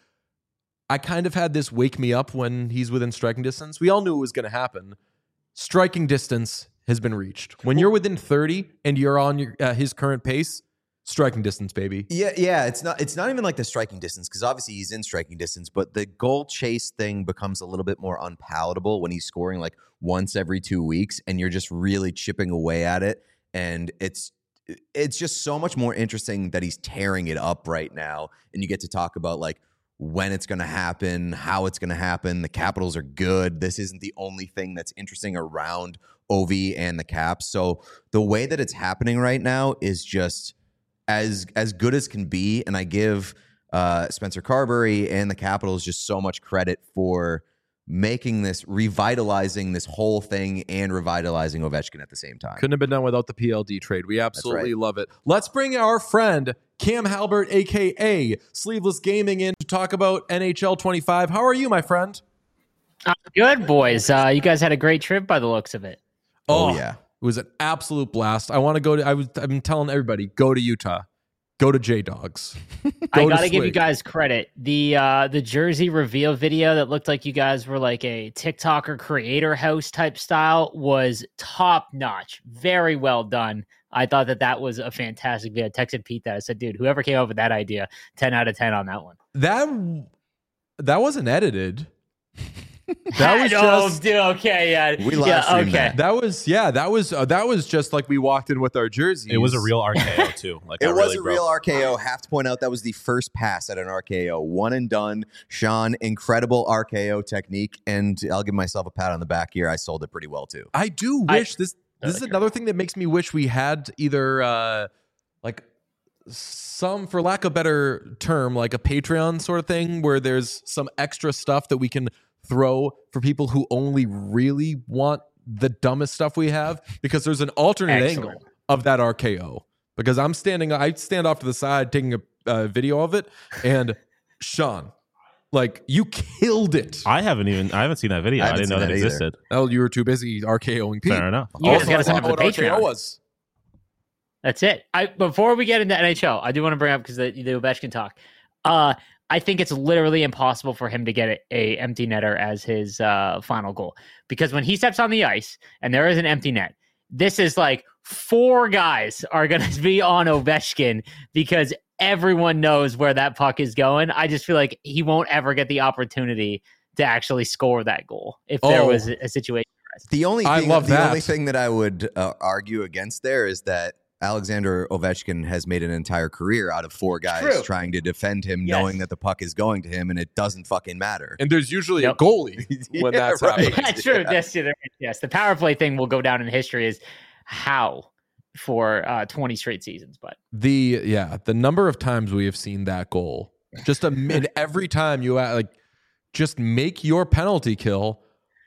I kind of had this wake me up when he's within striking distance. We all knew it was going to happen. Striking distance has been reached. When you're within thirty and you're on your, uh, his current pace, striking distance, baby. Yeah, yeah. It's not. It's not even like the striking distance because obviously he's in striking distance, but the goal chase thing becomes a little bit more unpalatable when he's scoring like once every two weeks, and you're just really chipping away at it, and it's it's just so much more interesting that he's tearing it up right now, and you get to talk about like when it's going to happen, how it's going to happen. The Capitals are good. This isn't the only thing that's interesting around Ovi and the Caps. So the way that it's happening right now is just as as good as can be, and I give uh, Spencer Carberry and the Capitals just so much credit for making this, revitalizing this whole thing and revitalizing Ovechkin at the same time. Couldn't have been done without the P L D trade. We absolutely right. love it. Let's bring our friend Cam Halbert, a k a. Sleeveless Gaming, in to talk about N H L twenty-five. How are you, my friend? Uh, good, boys. Uh, you guys had a great trip by the looks of it. Oh, yeah. It was an absolute blast. I want to go to, I was, I've been telling everybody, go to Utah. Go to J-Dogs. I Go gotta to give you Swig. guys credit. The uh, the jersey reveal video that looked like you guys were like a TikToker creator house type style was top notch. Very well done. I thought that that was a fantastic video. I texted Pete that. I said, dude, whoever came up with that idea, ten out of ten on that one. That, that wasn't edited. That was oh, just... dude, okay, yeah. We live yeah, streamed okay. that. That was, yeah, that was, uh, that was just like we walked in with our jerseys. it was a real R K O too. Like It I was really a broke- real R K O. Have to point out that was the first pass at an R K O. One and done. Sean, incredible R K O technique. And I'll give myself a pat on the back here. I sold it pretty well, too. I do I- wish this. This is Okay. another thing that makes me wish we had either uh, like some, for lack of a better term, like a Patreon sort of thing where there's some extra stuff that we can throw for people who only really want the dumbest stuff we have, because there's an alternate Excellent. angle of that R K O. Because I'm standing, I stand off to the side taking a uh, video of it, and Sean, like, you killed it. I haven't even I haven't seen that video. I I, haven't didn't know seen that that either. existed. Oh, you were too busy RKOing Pete. Fair enough. You guys Also, gotta I sign up thought for the what R K O Patreon. was. That's it. I before we get into N H L, I do want to bring up because the, the Ovechkin talk. Uh, I think it's literally impossible for him to get a, a empty netter as his uh, final goal, because when he steps on the ice and there is an empty net, this is like four guys are going to be on Ovechkin because everyone knows where that puck is going. I just feel like he won't ever get the opportunity to actually score that goal if there Oh. was a situation. The only I thing, love the that. only thing that I would uh, argue against there is that Alexander Ovechkin has made an entire career out of four guys True. trying to defend him, Yes. knowing that the puck is going to him, and it doesn't fucking matter. And there's usually Yep. a goalie when Yeah, that's right. happening. That's true. Yeah. Yes, yes, the power play thing will go down in history as how for uh, twenty straight seasons. But The yeah, the number of times we have seen that goal, just a and every time you uh, like, just make your penalty kill,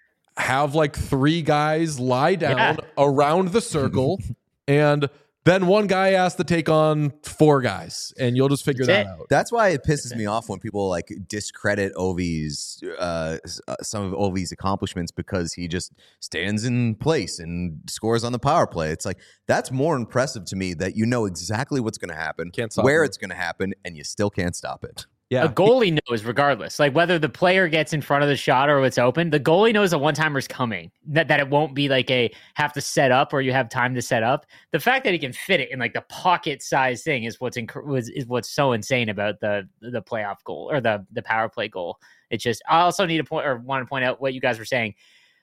have like three guys lie down Yeah. around the circle, and then one guy has to take on four guys, and you'll just figure That's that it. out. That's why it pisses me off when people like discredit Ovi's uh, s- uh, some of Ovi's accomplishments because he just stands in place and scores on the power play. It's like that's more impressive to me that you know exactly what's going to happen, Can't stop where him. it's going to happen, and you still can't stop it. Yeah, a goalie knows regardless, like whether the player gets in front of the shot or it's open, the goalie knows a one-timer's coming, that, that it won't be like a have to set up or you have time to set up. The fact that he can fit it in like the pocket size thing is what's inc- was, is what's so insane about the the playoff goal or the the power play goal. It's just, I also need to point or want to point out what you guys were saying.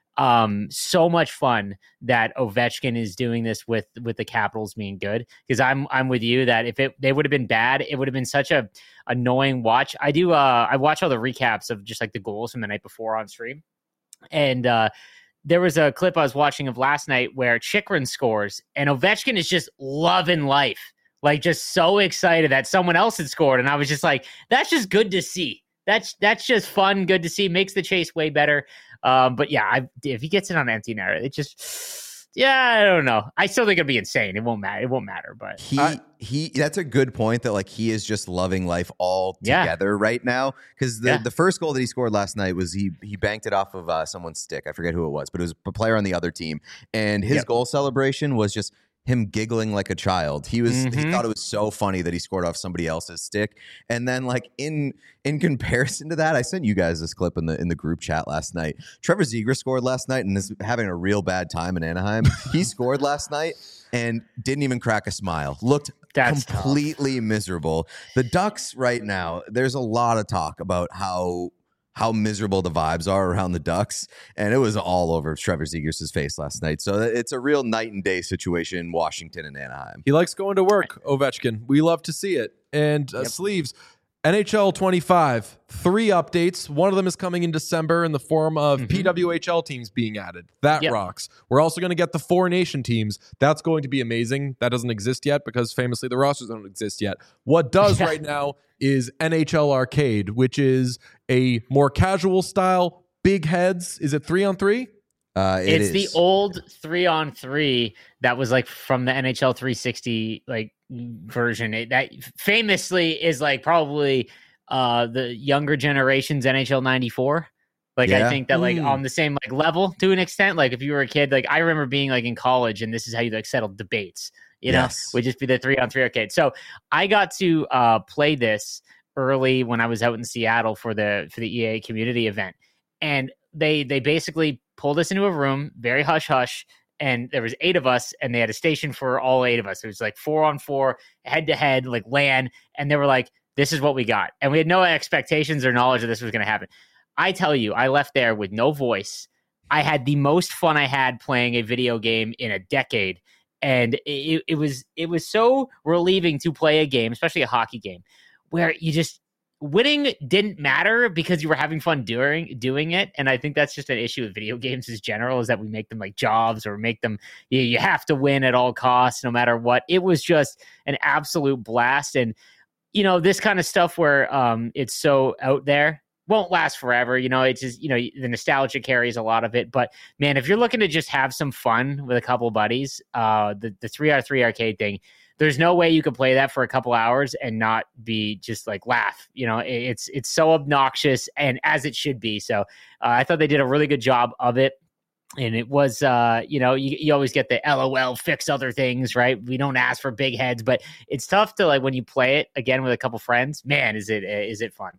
Um, so much fun that Ovechkin is doing this with with the Capitals being good, because I'm I'm with you that if it they would have been bad, it would have been such a annoying watch. I do uh I watch all the recaps of just like the goals from the night before on stream, and uh there was a clip I was watching of last night where Chychrun scores and Ovechkin is just loving life, like just so excited that someone else had scored, and I was just like, that's just good to see. That's that's just fun, good to see. Makes the chase way better. Um, but yeah, I, if he gets it on empty net, it just, yeah, I don't know. I still think it'd be insane. It won't matter. It won't matter. But He I- he that's a good point that like he is just loving life all Yeah. together right now, because the, Yeah. the first goal that he scored last night was he he banked it off of uh, someone's stick. I forget who it was, but it was a player on the other team, and his Yep. goal celebration was just him giggling like a child. He was he Mhm. thought it was so funny that he scored off somebody else's stick. And then like in in comparison to that, I sent you guys this clip in the in the group chat last night. Trevor Zegras scored last night and is having a real bad time in Anaheim. He scored last night and didn't even crack a smile. Looked That's tough. completely miserable. The Ducks right now, there's a lot of talk about how how miserable the vibes are around the Ducks, and it was all over Trevor Zegras' face last night. So it's a real night and day situation in Washington and Anaheim. he likes going to work, Ovechkin. We love to see it. And uh, Yep. Sleeves, N H L twenty-five, three updates. One of them is coming in December in the form of Mhm. P W H L teams being added. That Yep. rocks. We're also going to get the four nation teams. That's going to be amazing. That doesn't exist yet because famously the rosters don't exist yet. What does Yeah. right now is N H L Arcade, which is a more casual style, big heads. Is it three on three? Uh, it it's the is. old three on three that was like from the N H L three sixty like version. It, that famously is like probably uh the younger generation's N H L ninety-four. Like Yeah. I think that like Mm. on the same like level to an extent. Like if you were a kid, like I remember being like in college and this is how you like settled debates. You know, Yes. would just be the three on three arcade. So I got to uh play this early when I was out in Seattle for the for the E A community event, and they they basically pulled us into a room, very hush hush, and there was eight of us, and they had a station for all eight of us. It was like four on four, head to head, like LAN, and they were like, "This is what we got," and we had no expectations or knowledge that this was going to happen. I tell you, I left there with no voice. I had the most fun I had playing a video game in a decade. And it, it was it was so relieving to play a game, especially a hockey game, where you just winning didn't matter because you were having fun doing doing it. And I think that's just an issue with video games in general, is that we make them like jobs or make them you, you have to win at all costs, no matter what. It was just an absolute blast. And you know, this kind of stuff where um, it's so out there won't last forever. You know, it's just, you know, the nostalgia carries a lot of it. But man, if you're looking to just have some fun with a couple buddies, uh, the, the three out of three arcade thing, there's no way you could play that for a couple hours and not be just like laugh. You know, it, it's, it's so obnoxious, and as it should be. So uh, I thought they did a really good job of it. And it was, uh, you know, you, you always get the L O L fix other things, right? We don't ask for big heads, but it's tough to like when you play it again with a couple friends, man, is it, is it fun?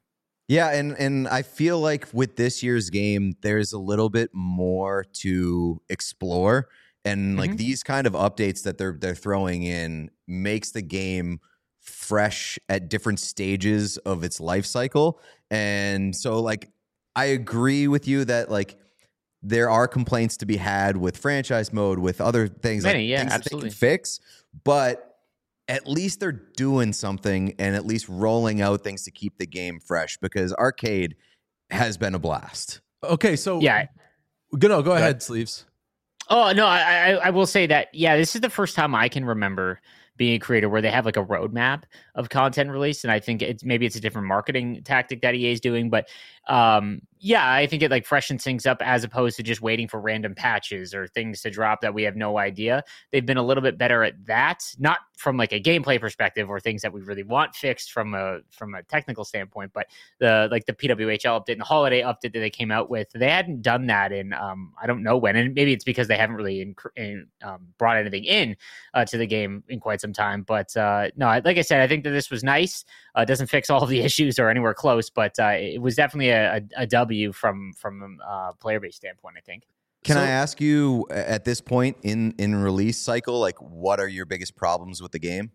Yeah, and and I feel like with this year's game, there's a little bit more to explore, and like Mhm. these kind of updates that they're they're throwing in makes the game fresh at different stages of its life cycle. And so, like, I agree with you that like there are complaints to be had with franchise mode, with other things, Many, like yeah, things absolutely. that they can fix, but at least they're doing something and at least rolling out things to keep the game fresh, because arcade has been a blast. Okay, so Yeah. go no, go ahead. ahead, Sleeves. Oh no, I, I I will say that yeah, this is the first time I can remember being a creator where they have like a roadmap of content release, and I think it's maybe it's a different marketing tactic that E A is doing, but um, yeah, I think it like freshens things up as opposed to just waiting for random patches or things to drop that we have no idea. They've been a little bit better at that, not from like a gameplay perspective or things that we really want fixed from a from a technical standpoint, but the like the P W H L update and the holiday update that they came out with, they hadn't done that in um, I don't know when, and maybe it's because they haven't really in, in, um, brought anything in uh, to the game in quite some time. But uh, no, like I said, I think that this was nice. Uh, it doesn't fix all of the issues or anywhere close, but uh, it was definitely a, a, a W from from a player base standpoint, I think. Can So- I ask you at this point in in release cycle, like what are your biggest problems with the game?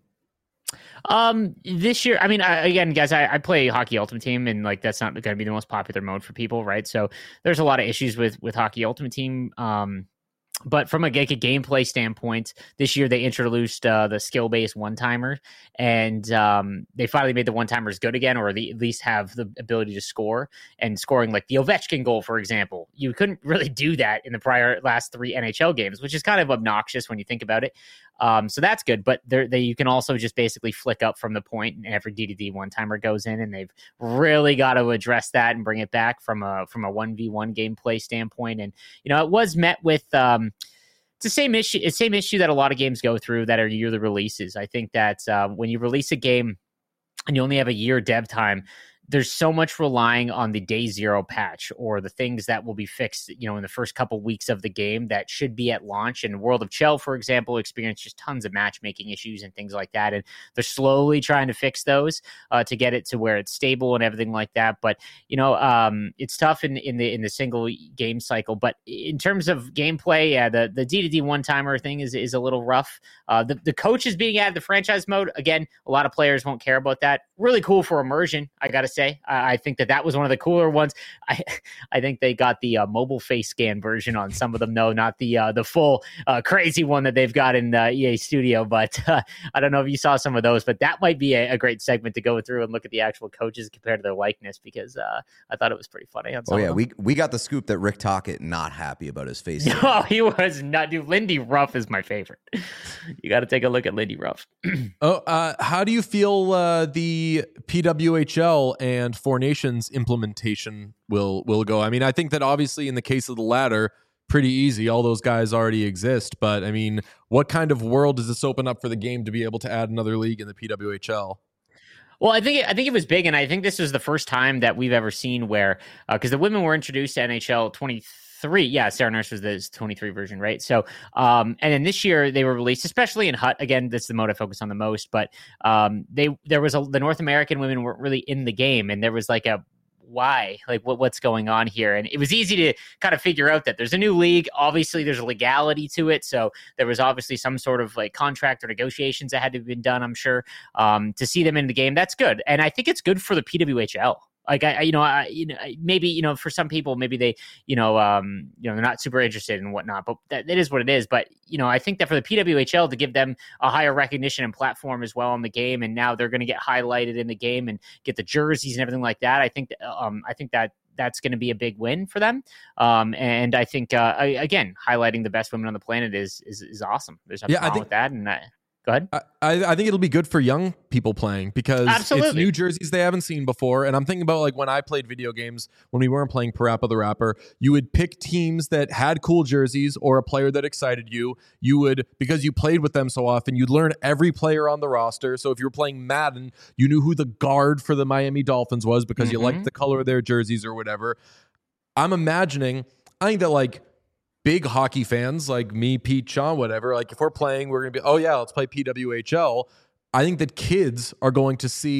Um, this year, I mean, I, again, guys, I, I play Hockey Ultimate Team, and like that's not going to be the most popular mode for people, right? So there's a lot of issues with with Hockey Ultimate Team. Um, but from a, like a gameplay standpoint, this year they introduced uh, the skill based one timer, and um, they finally made the one timers good again, or the, at least have the ability to score and scoring like the Ovechkin goal, for example. You couldn't really do that in the prior last three N H L games, which is kind of obnoxious when you think about it. Um, so that's good, but there, they, you can also just basically flick up from the point, and every D D D one timer goes in, and they've really got to address that and bring it back from a from a one v one gameplay standpoint. And you know, it was met with um, it's the same issue, it's the same issue that a lot of games go through that are yearly releases. I think that uh, when you release a game and you only have a year dev time, there's so much relying on the day zero patch or the things that will be fixed, you know, in the first couple weeks of the game that should be at launch. And World of Chell, for example, experienced just tons of matchmaking issues and things like that. And they're slowly trying to fix those uh, to get it to where it's stable and everything like that. But, you know, um, it's tough in, in the in the single game cycle. But in terms of gameplay, yeah, the, the D D D one-timer thing is, is a little rough. Uh, the, the coaches being added, the franchise mode, again, a lot of players won't care about that. Really cool for immersion, I got to say. I, I think that that was one of the cooler ones. I I think they got the uh, mobile face scan version on some of them, though, not the uh, the full uh, crazy one that they've got in uh, E A Studio. But uh, I don't know if you saw some of those, but that might be a, a great segment to go through and look at the actual coaches compared to their likeness, because uh, I thought it was pretty funny. On some Oh yeah, of them. we we got the scoop that Rick Tocchet not happy about his face. No, he was not. Dude, Lindy Ruff is my favorite. You got to take a look at Lindy Ruff. Oh, uh, how do you feel uh, the P W H L and Four Nations implementation will will go? I mean, I think that obviously in the case of the latter, pretty easy. All those guys already exist. But I mean, what kind of world does this open up for the game to be able to add another league in the P W H L? Well, I think it, I think it was big, and I think this was the first time that we've ever seen where, because uh, the women were introduced to N H L twenty-three. Yeah, Sarah Nurse was the twenty-three version, right? So, um, and then this year they were released, especially in H U T. Again, that's the mode I focus on the most. But um, they there was a, the North American women weren't really in the game, and there was like a why, like what what's going on here? And it was easy to kind of figure out that there's a new league. Obviously, there's a legality to it, so there was obviously some sort of like contract or negotiations that had to have been done, I'm sure, um, to see them in the game. That's good, and I think it's good for the P W H L. Like I, I you know, I, you know, maybe you know, for some people, maybe they, you know, um, you know, they're not super interested in whatnot, but that, that is what it is. But you know, I think that for the P W H L to give them a higher recognition and platform as well in the game, and now they're going to get highlighted in the game and get the jerseys and everything like that. I think, that, um, I think that that's going to be a big win for them. Um, and I think uh, I, again, highlighting the best women on the planet is is, is awesome. There's nothing Yeah, I wrong think- with that, and I, go ahead. I, I think it'll be good for young people playing because Absolutely. it's new jerseys they haven't seen before. And I'm thinking about like when I played video games, when we weren't playing Parappa the Rapper, you would pick teams that had cool jerseys or a player that excited you. You would, because you played with them so often, you'd learn every player on the roster. So if you were playing Madden, you knew who the guard for the Miami Dolphins was because you Mhm. liked the color of their jerseys or whatever. I'm imagining, I think that like big hockey fans like me, Pete, Sean, whatever, like if we're playing, we're going to be, oh yeah, let's play P W H L. I think that kids are going to see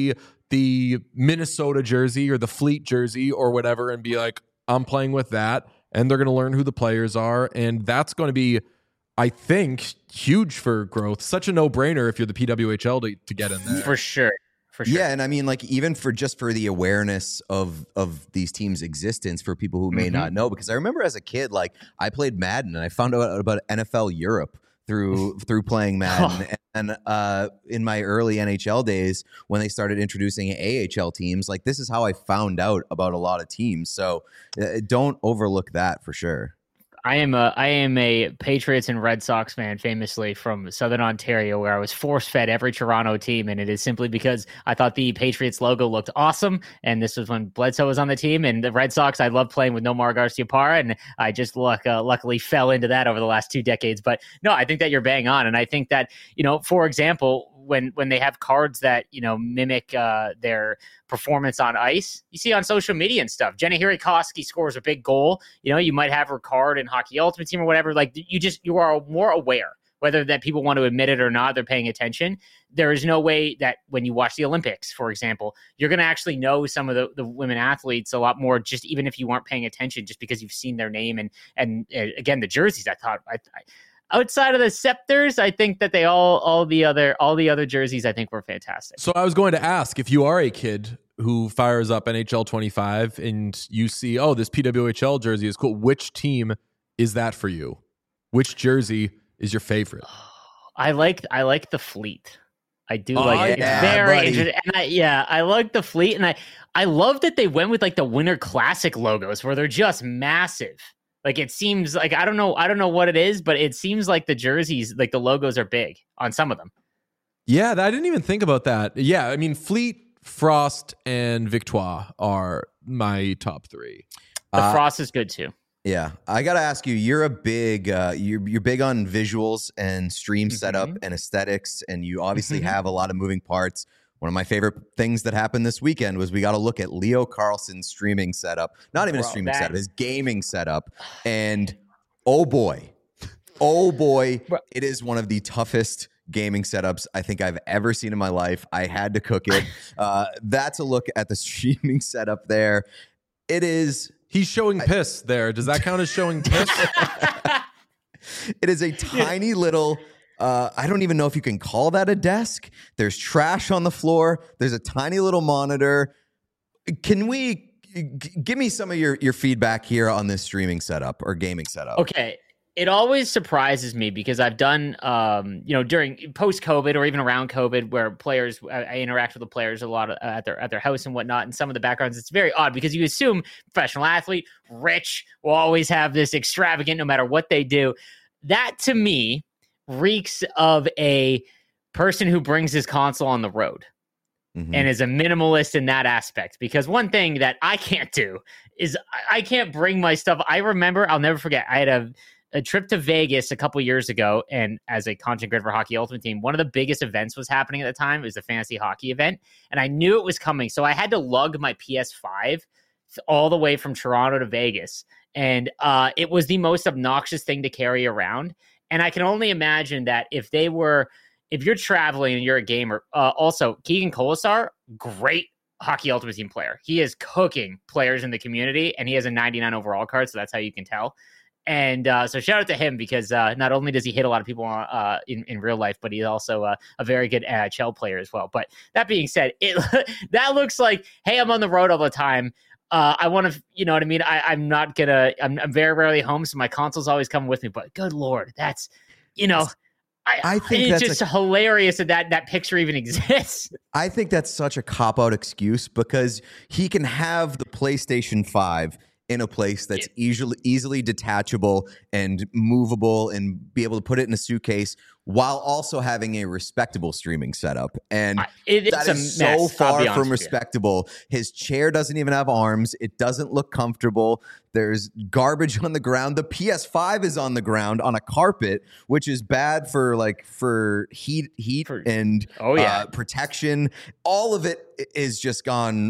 the Minnesota jersey or the Fleet jersey or whatever and be like, I'm playing with that. And they're going to learn who the players are. And that's going to be, I think, huge for growth. Such a no-brainer if you're the P W H L to, to get in there. For sure. For sure. Yeah, and I mean, like, even for just for the awareness of of these teams' existence for people who may Mm-hmm. not know, because I remember as a kid, like, I played Madden and I found out about N F L Europe through through playing Madden. And uh, in my early N H L days, when they started introducing A H L teams, like, this is how I found out about a lot of teams. So uh, don't overlook that for sure. I am a I am a Patriots and Red Sox fan, famously from Southern Ontario, where I was force-fed every Toronto team, and it is simply because I thought the Patriots logo looked awesome, and this was when Bledsoe was on the team, and the Red Sox, I loved playing with Nomar Garciaparra, and I just luck, uh, luckily fell into that over the last two decades. But no, I think that you're bang on, and I think that, you know, for example, when when they have cards that, you know, mimic uh, their performance on ice, you see on social media and stuff. Jenna Hirikoski scores a big goal. You know, you might have her card in Hockey Ultimate Team or whatever. Like, you just you are more aware, whether that people want to admit it or not. They're paying attention. There is no way that when you watch the Olympics, for example, you're going to actually know some of the, the women athletes a lot more, just even if you weren't paying attention, just because you've seen their name and and uh, again the jerseys. I thought I. I Outside of the Scepters, I think that they all, all the other, all the other jerseys, I think were fantastic. So I was going to ask, if you are a kid who fires up N H L twenty-five and you see, oh, this P W H L jersey is cool, which team is that for you? Which jersey is your favorite? I like, I like the Fleet. I do Oh, like it. yeah, It's very buddy. interesting. And I, yeah, I like the Fleet, and I, I love that they went with like the Winter Classic logos, where they're just massive. Like, it seems like, I don't know, I don't know what it is, but it seems like the jerseys, like the logos are big on some of them. Yeah, I didn't even think about that. Yeah, I mean, Fleet, Frost, and Victoire are my top three. The Uh, Frost is good too. Yeah, I gotta ask you. You're a big, uh, you're you're big on visuals and stream Mhm. setup and aesthetics, and you obviously Mhm. have a lot of moving parts. One of my favorite things that happened this weekend was we got to look at Leo Carlson's streaming setup. Not even Bro, a streaming that- setup, his gaming setup. And oh boy, oh boy, Bro. it is one of the toughest gaming setups I think I've ever seen in my life. I had to cook it. Uh, that's a look at the streaming setup there. It is. He's showing piss there. Does that count as showing piss? It is a tiny little. Uh, I don't even know if you can call that a desk. There's trash on the floor. There's a tiny little monitor. Can we g- give me some of your, your feedback here on this streaming setup or gaming setup? Okay. It always surprises me because I've done, um, you know, during post-COVID or even around COVID, where players, I, I interact with the players a lot at their at their house and whatnot, and some of the backgrounds. It's very odd because you assume professional athlete, rich, will always have this extravagant, no matter what they do. That to me reeks of a person who brings his console on the road. Mhm. And is a minimalist in that aspect. Because one thing that I can't do is I- I can't bring my stuff. I remember, I'll never forget, I had a, a trip to Vegas a couple years ago, and as a content creator for Hockey Ultimate Team, one of the biggest events was happening at the time. It was the fantasy hockey event, and I knew it was coming. So I had to lug my P S five all the way from Toronto to Vegas. And uh, it was the most obnoxious thing to carry around. And I can only imagine that if they were, if you're traveling and you're a gamer, uh, also Keegan Colasar, great Hockey Ultimate Team player. He is cooking players in the community, and he has a ninety-nine overall card, so that's how you can tell. And uh, so shout out to him because uh, not only does he hit a lot of people uh, in, in real life, but he's also uh, a very good N H L player as well. But that being said, it that looks like, hey, I'm on the road all the time. Uh, I want to, you know what I mean? I, I'm not going to, I'm, I'm very rarely home, so my console's always coming with me. But good Lord, that's, you know, I, I think it's that's just a- hilarious that, that that picture even exists. I think that's such a cop-out excuse because he can have the PlayStation five in a place that's easily easily detachable and movable and be able to put it in a suitcase while also having a respectable streaming setup. And I- it- that it's is a mess, so I'll far be honest from with you. respectable. His chair doesn't even have arms. It doesn't look comfortable. There's garbage on the ground. The P S five is on the ground on a carpet, which is bad for like for heat heat For- and Oh, yeah. uh, protection. All of it i- is just gone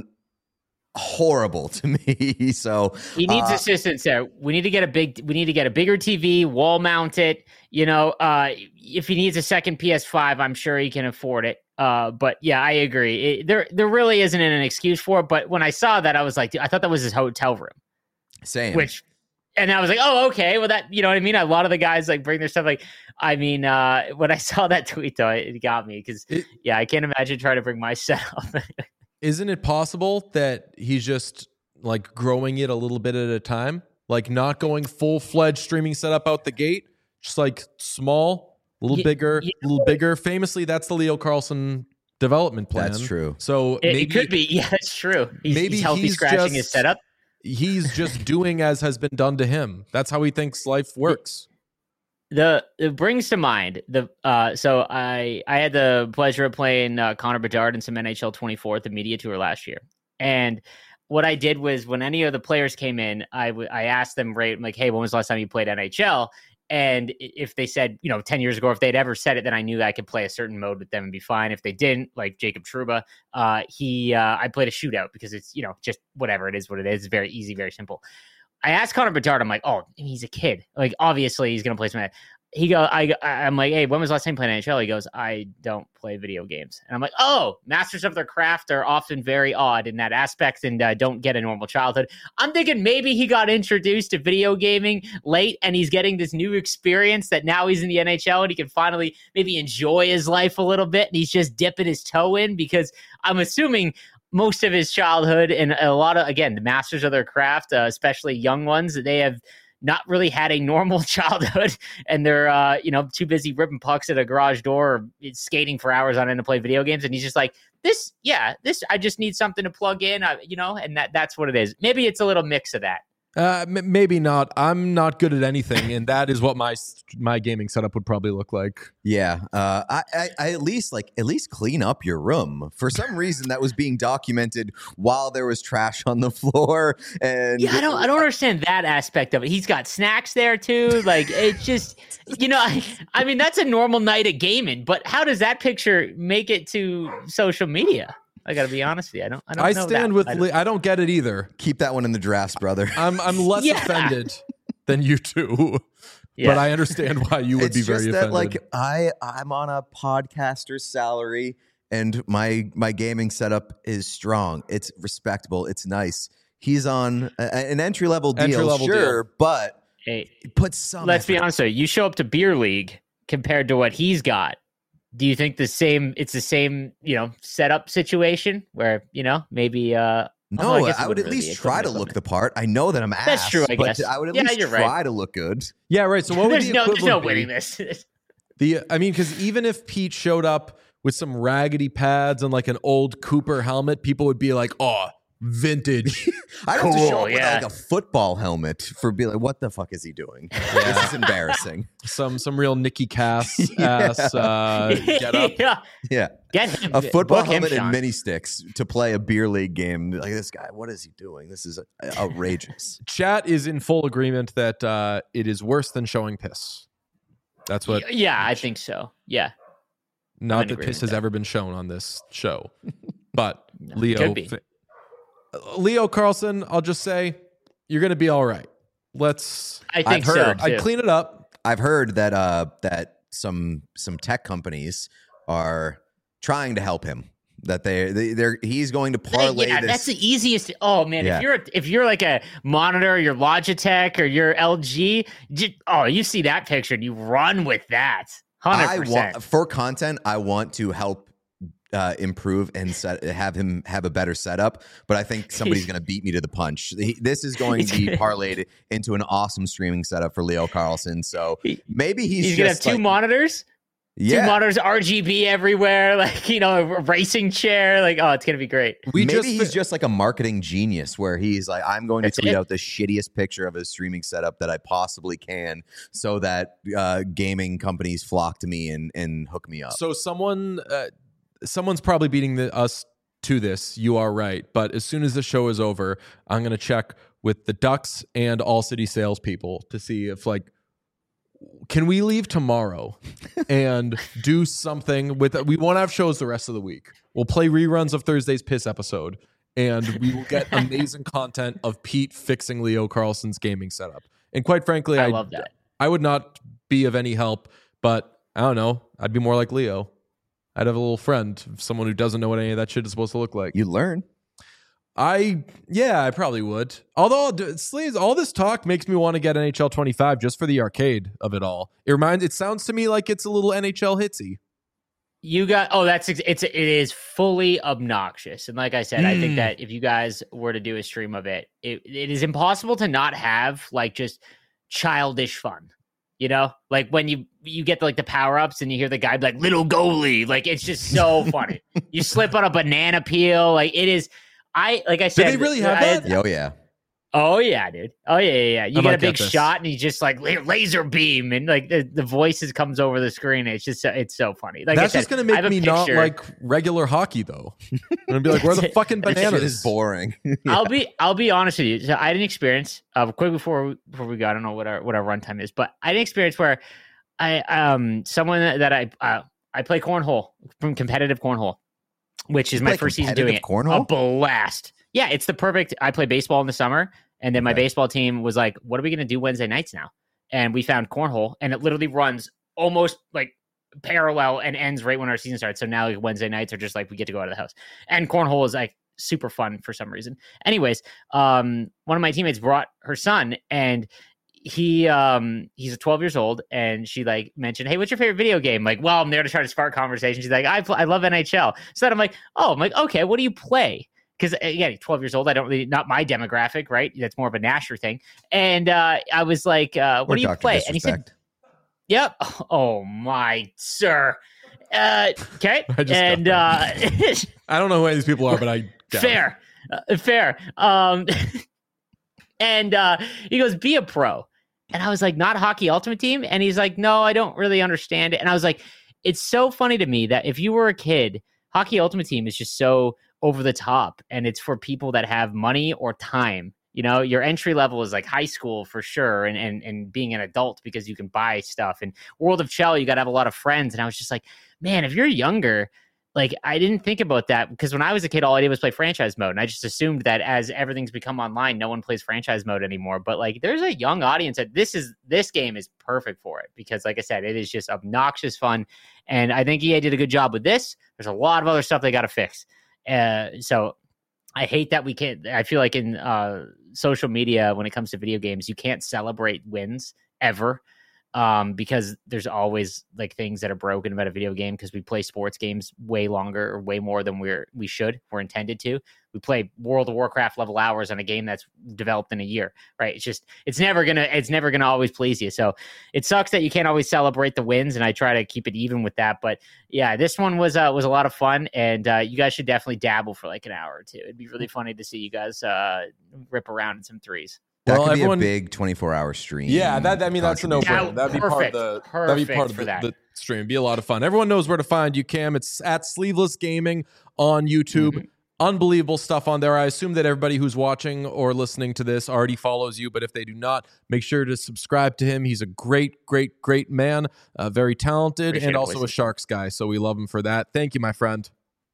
horrible to me. So He needs uh, assistance there. We need to get a big. We need to get a bigger T V, wall mount it. You know, uh, if he needs a second P S five, I'm sure he can afford it. Uh, but yeah, I agree. It, there, there really isn't an excuse for it. But when I saw that, I was like, dude, I thought that was his hotel room. Same. Which, and I was like, oh, okay. Well, that, you know what I mean? A lot of the guys like bring their stuff. Like, I mean, uh, when I saw that tweet though, it got me because yeah, I can't imagine trying to bring my setup. Isn't it possible that he's just like growing it a little bit at a time? Like not going full fledged streaming setup out the gate, just like small, a little yeah, bigger, a yeah. little bigger. Famously, that's the Leo Carlson development plan. That's true. So it, maybe it could be. Yeah, that's true. He's, maybe he's healthy he's scratching just, his setup. He's just doing as has been done to him. That's how he thinks life works. The it brings to mind the uh so I I had the pleasure of playing uh, Connor Bedard in some N H L twenty-four at the media tour last year, and what I did was when any of the players came in, I, w- I asked them, right, like, hey, when was the last time you played N H L? And if they said, you know, ten years ago, if they'd ever said it, then I knew that I could play a certain mode with them and be fine. If they didn't, like Jacob Trouba, uh, he, uh, I played a shootout because it's, you know, just whatever it is, what it is. It's very easy, very simple. I asked Connor Bedard, I'm like, oh, he's a kid. Like, obviously he's going to play some. He go, I, I'm like, hey, when was the last time you played N H L? He goes, I don't play video games. And I'm like, oh, masters of their craft are often very odd in that aspect and uh, don't get a normal childhood. I'm thinking maybe he got introduced to video gaming late and he's getting this new experience that now he's in the N H L and he can finally maybe enjoy his life a little bit. And he's just dipping his toe in because I'm assuming most of his childhood and a lot of, again, the masters of their craft, uh, especially young ones, they have not really had a normal childhood and they're, uh, you know, too busy ripping pucks at a garage door or skating for hours on end to play video games. And he's just like, this, yeah, this, I just need something to plug in, uh, you know, and that that's what it is. Maybe it's a little mix of that. Uh, m- maybe not. I'm not good at anything, and that is what my my gaming setup would probably look like. Yeah, uh, I, I, I at least like at least clean up your room. For some reason, that was being documented while there was trash on the floor. And yeah, I don't, I don't understand that aspect of it. He's got snacks there too. Like it's just, you know, I, I mean, that's a normal night of gaming. But how does that picture make it to social media? I got to be honest with you. I don't. I don't. I know stand that. with. I don't, Le- I don't get it either. Keep that one in the drafts, brother. I'm. I'm less Yeah. offended than you two, Yeah. but I understand why you would it's be just very that, offended. like I, I'm on a podcaster's salary, and my my gaming setup is strong. It's respectable. It's nice. He's on a, an entry level deal, Entry-level sure, deal. but Hey, put some. let's be effort. honest with you. You show up to beer league compared to what he's got. Do you think the same? It's the same, you know, setup situation where you know maybe. uh No, although guess it I would wouldn't at really least be try to equipment look the part. I know that I'm ass. That's true, I but guess. I would at Yeah, least you're try right. to look good. yeah, right. So what would there's the no, there's no equivalent be? winning this. The I mean, because even if Pete showed up with some raggedy pads and like an old Cooper helmet, people would be like, "Oh, vintage." I'd have to Cool, show up yeah. with like a football helmet for be like, what the fuck is he doing? This is embarrassing. some some real Nicky Cass Yeah. ass uh, get up. yeah, Yeah. get him A football book him, helmet and Sean. mini sticks to play a beer league game. Like, this guy, what is he doing? This is outrageous. Chat is in full agreement that uh, it is worse than showing piss. That's what. Yeah, I think so. Yeah, Not in that agreement piss with has that. ever been shown on this show, but No, Leo, could be. fa- Leo Carlson, I'll just say you're going to be all right. Let's. I think I've so. heard- Too. I'd clean it up. I've heard that uh, that some some tech companies are trying to help him. That they, they they're he's going to parlay yeah, this. that's the easiest. Oh man, Yeah. if you're if you're like a monitor, your Logitech or your L G, j- oh, you see that picture and you run with that. Hundred I percent. want for content. I want to help uh, improve and set, have him have a better setup. But I think somebody's going to beat me to the punch. He, this is going to be parlayed into an awesome streaming setup for Leo Carlson. So He- maybe he's, He's gonna have just two like, monitors, yeah. two monitors, R G B everywhere, like you know, a racing chair. Like, oh, it's gonna be great. We Maybe just he's just like a marketing genius where he's like, I'm going to That's tweet it. out the shittiest picture of his streaming setup that I possibly can so that uh, gaming companies flock to me and, and hook me up. So someone, uh, someone's probably beating the, us to this. You are right, but as soon as the show is over, I'm going to check with the Ducks and All City salespeople to see if like, can we leave tomorrow and do something with? We won't have shows the rest of the week. We'll play reruns of Thursday's Piss episode, and we will get amazing content of Pete fixing Leo Carlson's gaming setup. And quite frankly, I I love that. I would not be of any help, but I don't know. I'd be more like Leo. I'd have a little friend, someone who doesn't know what any of that shit is supposed to look like. You learn. I yeah, I probably would. Although Sleeves, all this talk makes me want to get N H L twenty-five just for the arcade of it all. It reminds. It sounds to me like it's a little N H L hitsy. You got oh, that's it's it is fully obnoxious, and like I said, mm. I think that if you guys were to do a stream of it, it, it is impossible to not have like just childish fun. You know, like when you you get like the power ups and you hear the guy be like little goalie, like it's just so funny. You slip on a banana peel, like it is. I like I said, do they really have I, that? Oh yeah. Oh yeah, dude. Oh yeah, yeah. yeah. You I get a might big get this. shot, and he just like laser beam, and like the, the voices comes over the screen. It's just it's so funny. Like that's I said, just gonna make me picture. not like regular hockey though. I'm gonna be like, where are the fucking That bananas? shit is boring. Yeah. I'll be I'll be honest with you. So I didn't experience uh, quick before we, before we go. I don't know what our what our runtime is, but I didn't experience where I um someone that I uh, I play cornhole from competitive cornhole, which is You my play first season doing it. cornhole? A blast. Yeah, it's the perfect. I play baseball in the summer, and then my Okay. baseball team was like, "What are we going to do Wednesday nights now?" And we found cornhole, and it literally runs almost like parallel and ends right when our season starts. So now like, Wednesday nights are just like we get to go out of the house, and cornhole is like super fun for some reason. Anyways, um, one of my teammates brought her son, and he um he's twelve years old, and she like mentioned, "Hey, what's your favorite video game?" Like, well, I'm there to try to spark conversation. She's like, I pl- I love N H L. So then I'm like, oh, I'm like, okay, what do you play? Because again, twelve years old, I don't really, not my demographic, right? That's more of a Nasher thing. And uh, I was like, uh, what Or do you Doctor play? And he said, Disrespect. yep. Oh my, sir. Uh, okay. I just And got uh, I don't know who any of these people are, but I got it. fair, uh, fair. Um, and uh, he goes, be a pro. And I was like, not Hockey Ultimate Team? And he's like, no, I don't really understand it. And I was like, it's so funny to me that if you were a kid, Hockey Ultimate Team is just so over the top, and it's for people that have money or time. You know, your entry level is like high school for sure, and and and being an adult because you can buy stuff. And World of Chell, you got to have a lot of friends. And I was just like, man, if you're younger, like I didn't think about that, because when I was a kid, all I did was play franchise mode, and I just assumed that as everything's become online, no one plays franchise mode anymore. But like, there's a young audience that this is this game is perfect for it, because like I said, it is just obnoxious fun, and I think E A did a good job with this. There's a lot of other stuff they got to fix. Uh, so I hate that we can't, I feel like in uh, social media, when it comes to video games, you can't celebrate wins ever, um, because there's always like things that are broken about a video game, because we play sports games way longer or way more than we're, we should, we're intended to. We play World of Warcraft level hours on a game that's developed in a year, right? It's just, it's never going to, it's never going to always please you. So it sucks that you can't always celebrate the wins, and I try to keep it even with that. But yeah, this one was, uh, was a lot of fun, and uh, you guys should definitely dabble for like an hour or two. It'd be really funny to see you guys uh, rip around in some threes. That Well, could everyone- be a big twenty-four hour stream. Yeah, that I mean that's a no contribution. brainer. That'd be part of Perfect. the that'd be part Perfect of for the, that. the stream. It'd be a lot of fun. Everyone knows where to find you, Cam. It's at Sleeveless Gaming on YouTube. Mhm. Unbelievable stuff on there. I assume that everybody who's watching or listening to this already follows you, but if they do not, make sure to subscribe to him. He's a great, great, great man, uh, very talented, Appreciate and it, also boys. a Sharks guy. So we love him for that. Thank you, my friend.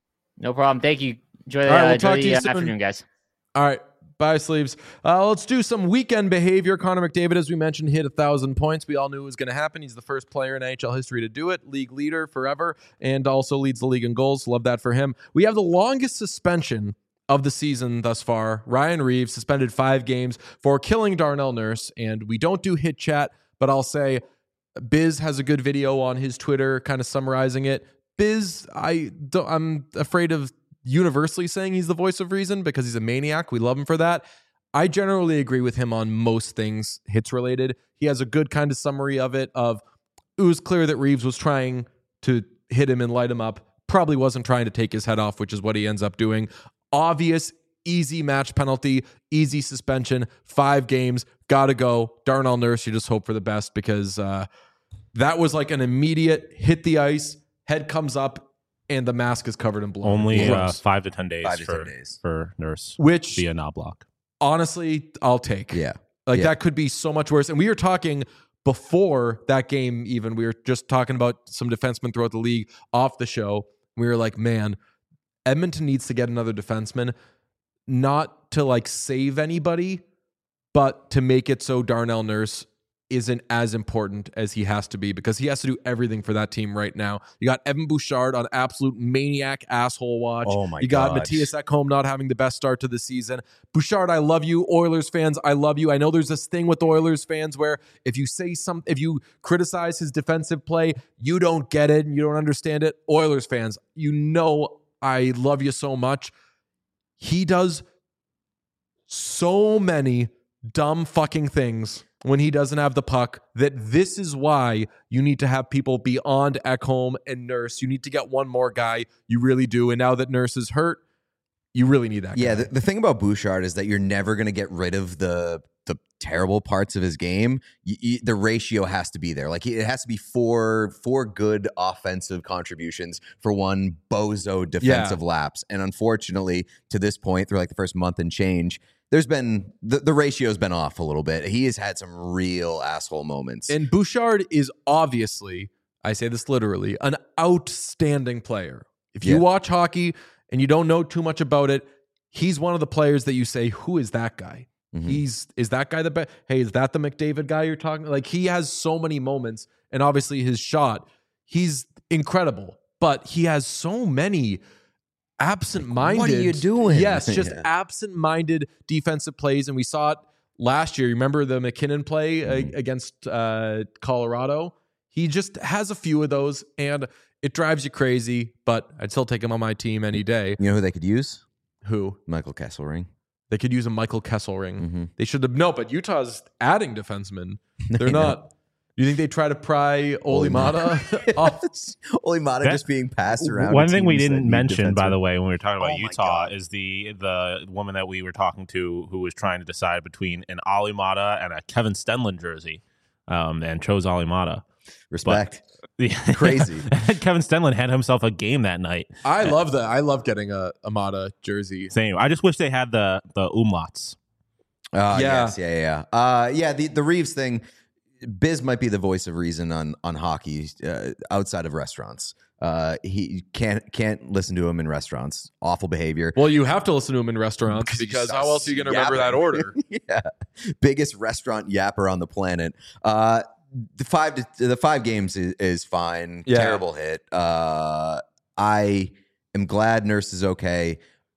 No problem. Thank you. Enjoy the, All right, uh, we'll enjoy talk to the you uh, soon. afternoon, guys. All right. Bye, Sleeves. Uh, let's do some weekend behavior. Connor McDavid, as we mentioned, hit one thousand points. We all knew it was going to happen. He's the first player in N H L history to do it. League leader forever, and also leads the league in goals. Love that for him. We have the longest suspension of the season thus far. Ryan Reeves suspended five games for killing Darnell Nurse, and we don't do hit chat, but I'll say Biz has a good video on his Twitter kind of summarizing it. Biz, I don't, I'm afraid of universally saying he's the voice of reason because he's a maniac. We love him for that. I generally agree with him on most things hits related. He has a good kind of summary of it of it was clear that Reeves was trying to hit him and light him up. Probably wasn't trying to take his head off, which is what he ends up doing. Obvious, easy match penalty, easy suspension, five games, gotta go. Darnell Nurse, you just hope for the best because uh, that was like an immediate hit the ice, head comes up, and the mask is covered in blood. Only uh, Gross. five to ten days Five to for, ten days. for Nurse Which, via knob block. honestly, I'll take. Yeah. Like Yeah. that could be so much worse. And we were talking before that game, even we were just talking about some defensemen throughout the league off the show. We were like, man, Edmonton needs to get another defenseman, not to like save anybody, but to make it so Darnell Nurse isn't as important as he has to be because he has to do everything for that team right now. You got Evan Bouchard on absolute maniac asshole watch. Oh my You got gosh. Matthias Ekholm not having the best start to the season. Bouchard, I love you. Oilers fans, I love you. I know there's this thing with Oilers fans where if you say some, if you criticize his defensive play, you don't get it and you don't understand it. Oilers fans, you know I love you so much. He does so many dumb fucking things when he doesn't have the puck that this is why you need to have people beyond Ekholm and Nurse. You need to get one more guy. You really do. And now that Nurse is hurt, you really need that Yeah, guy. the, the thing about Bouchard is that you're never going to get rid of the the terrible parts of his game. You, you, the ratio has to be there. Like it has to be four four good offensive contributions for one bozo defensive Yeah. lapse. And unfortunately, to this point, through like the first month and change, there's been the, the ratio's been off a little bit. He has had some real asshole moments. And Bouchard is obviously, I say this literally, an outstanding player. If you Yeah. watch hockey and you don't know too much about it, he's one of the players that you say, who is that guy? Mhm. He's is that guy the best? Hey, is that the McDavid guy you're talking? Like he has so many moments, and obviously his shot, he's incredible. But he has so many absent-minded. What are you doing? Yes, just Yeah. absent-minded defensive plays, and we saw it last year. You remember the McKinnon play Mhm. uh, against uh, Colorado? He just has a few of those, and it drives you crazy. But I'd still take him on my team any day. You know who they could use? Who Michael Kesselring. they could use a Michael Kesselring. Mhm. They should have no, but Utah's adding defensemen. They're I know. not. You think they try to pry Olimata off? Olimata That- just being passed around. One to thing we teams that didn't need mention, by defensemen. the way, when we were talking about Oh my Utah, God. is the the woman that we were talking to who was trying to decide between an Olimata and a Kevin Stenlund jersey, um, and chose Olimata. Respect. Yeah. Crazy. Kevin Stenlund had himself a game that night. I love that. I love getting a Amata jersey. Same. I just wish they had the the umlauts. Uh, Yeah. Yes, yeah, yeah, yeah. Uh, yeah, the, the Reeves thing, Biz might be the voice of reason on on hockey uh, outside of restaurants. Uh, he can't can't listen to him in restaurants. Awful behavior. Well, you have to listen to him in restaurants because how else are you going to remember that Yapping. order? Yeah, biggest restaurant yapper on the planet. Uh, the five to, the five games is, is fine. Yeah. Terrible hit. Uh, I am glad Nurse is okay.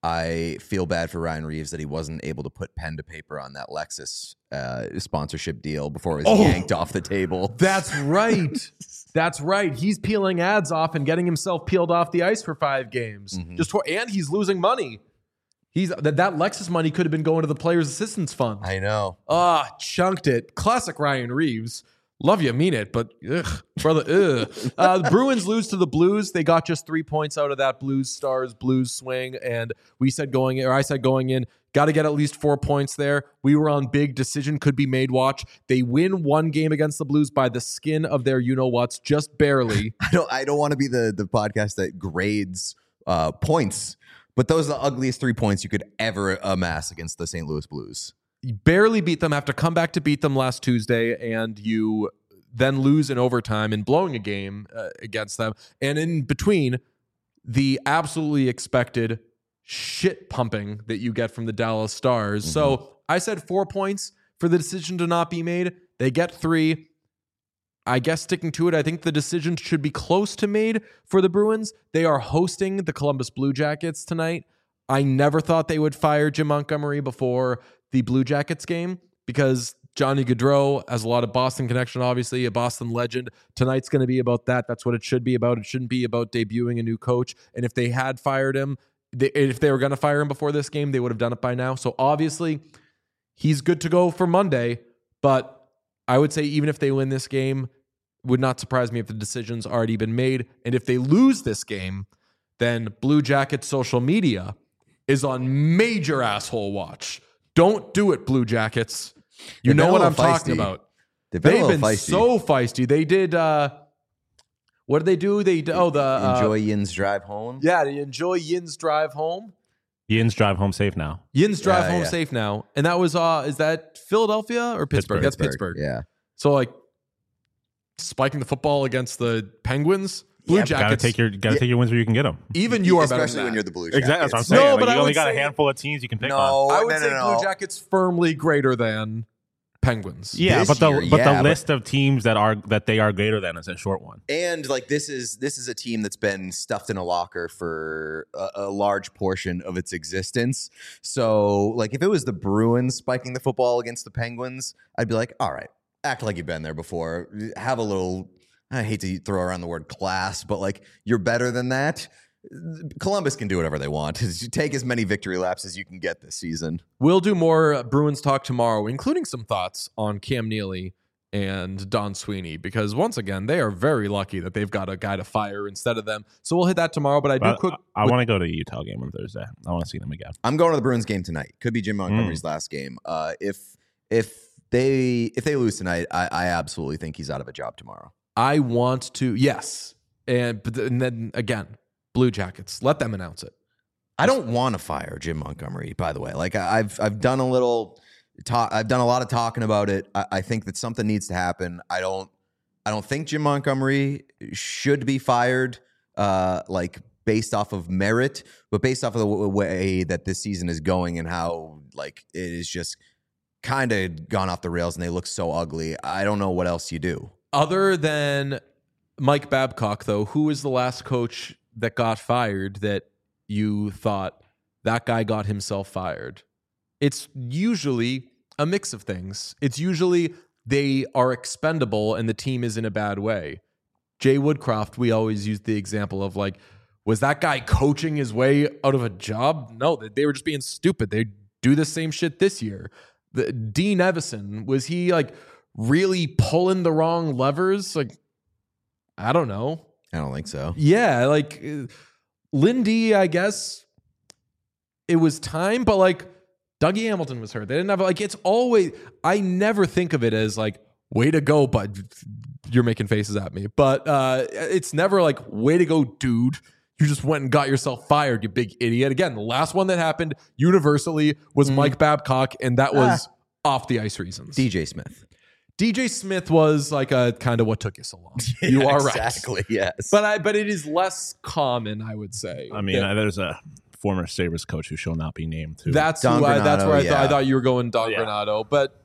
I feel bad for Ryan Reeves that he wasn't able to put pen to paper on that Lexus uh, sponsorship deal before it was Oh. yanked off the table. That's right. That's right. He's peeling ads off and getting himself peeled off the ice for five games. Mhm. Just for, and he's losing money. He's that that Lexus money could have been going to the players' assistance fund. I know. Ah, chunked it. Classic Ryan Reeves. Love you, mean it, but ugh, brother, ugh. Uh, the Bruins lose to the Blues. They got just three points out of that Blues Stars Blues swing, and we said going, or I said going in, got to get at least four points there. We were on big decision could be made. Watch, they win one game against the Blues by the skin of their you know what's, just barely. I don't. I don't want to be the the podcast that grades uh, points, but those are the ugliest three points you could ever amass against the Saint Louis Blues. You barely beat them, have to come back to beat them last Tuesday, and you then lose in overtime and blowing a game uh, against them. And in between, the absolutely expected shit pumping that you get from the Dallas Stars. Mm-hmm. So I said four points for the decision to not be made. They get three. I guess sticking to it, I think the decision should be close to made for the Bruins. They are hosting the Columbus Blue Jackets tonight. I never thought they would fire Jim Montgomery before the Blue Jackets game because Johnny Gaudreau has a lot of Boston connection, obviously, a Boston legend. Tonight's going to be about that. That's what it should be about. It shouldn't be about debuting a new coach. And if they had fired him, they, if they were going to fire him before this game, they would have done it by now. So obviously, he's good to go for Monday. But I would say even if they win this game, would not surprise me if the decision's already been made. And if they lose this game, then Blue Jackets social media is on major asshole watch. Don't do it, Blue Jackets. You They've been know a what little I'm talking feisty. about. They've been, a They've little been feisty. so feisty. They did. Uh, what did they do? They oh the uh, Enjoy Yin's drive home. Yeah, they enjoy Yin's drive home. Yin's drive home safe now. Yin's drive Yeah, home yeah. safe now, and that was uh, is that Philadelphia or Pittsburgh? Pittsburgh. That's Pittsburgh. Yeah. So like spiking the football against the Penguins. Blue Yeah, Jackets. Gotta take your gotta Yeah. take your wins where you can get them. even you are better Especially than when that. you're the Blue Jackets. Exactly. That's what I'm No, saying. but Like, I you only would got a say- handful of teams you can pick on. No, I would no, say no, Blue no. Jackets firmly greater than Penguins. Yeah, This but the year, but yeah, the but- list of teams that are that they are greater than is a short one. And like this is this is a team that's been stuffed in a locker for a, a large portion of its existence. So like if it was the Bruins spiking the football against the Penguins, I'd be like, all right, act like you've been there before. Have a little, I hate to throw around the word class, but like you're better than that. Columbus can do whatever they want. Take as many victory laps as you can get this season. We'll do more Bruins talk tomorrow, including some thoughts on Cam Neely and Don Sweeney, because once again, they are very lucky that they've got a guy to fire instead of them. So we'll hit that tomorrow. But I do But quick. I, I want to go to the Utah game on Thursday. I want to see them again. I'm going to the Bruins game tonight. Could be Jim Montgomery's last game. Uh, if if they if they lose tonight, I, I absolutely think he's out of a job tomorrow. I want to yes, and but th- and then again, Blue Jackets, let them announce it. I don't want to fire Jim Montgomery, by the way. Like I- I've I've done a little talk. I've done a lot of talking about it. I, I think that something needs to happen. I don't. I don't think Jim Montgomery should be fired. Uh, like based off of merit, but based off of the w- way that this season is going and how like it is just kind of gone off the rails and they look so ugly. I don't know what else you do. Other than Mike Babcock, though, who was the last coach that got fired that you thought that guy got himself fired? It's usually a mix of things. It's usually they are expendable and the team is in a bad way. Jay Woodcroft, we always use the example of like, was that guy coaching his way out of a job? No, they were just being stupid. They do the same shit this year. The, Dean Evison, was he like really pulling the wrong levers? Like, I don't know. I don't think so. Yeah, like uh, Lindy, I guess it was time, but like Dougie Hamilton was hurt. They didn't have like it's always. I never think of it as like way to go, but you're making faces at me. But uh, it's never like way to go, dude. You just went and got yourself fired, you big idiot. Again, the last one that happened universally was Mm. Mike Babcock, and that was off the ice reasons. D J Smith. D J Smith was like a kind of what took you so long. You Yeah, are right. exactly. Yes. But I but it is less common, I would say. I mean, Yeah. uh, there's a former Sabres coach who shall not be named too. that's Don who I, that's Granato, where I, th- I yeah. thought you were going, Don Yeah. Granato. But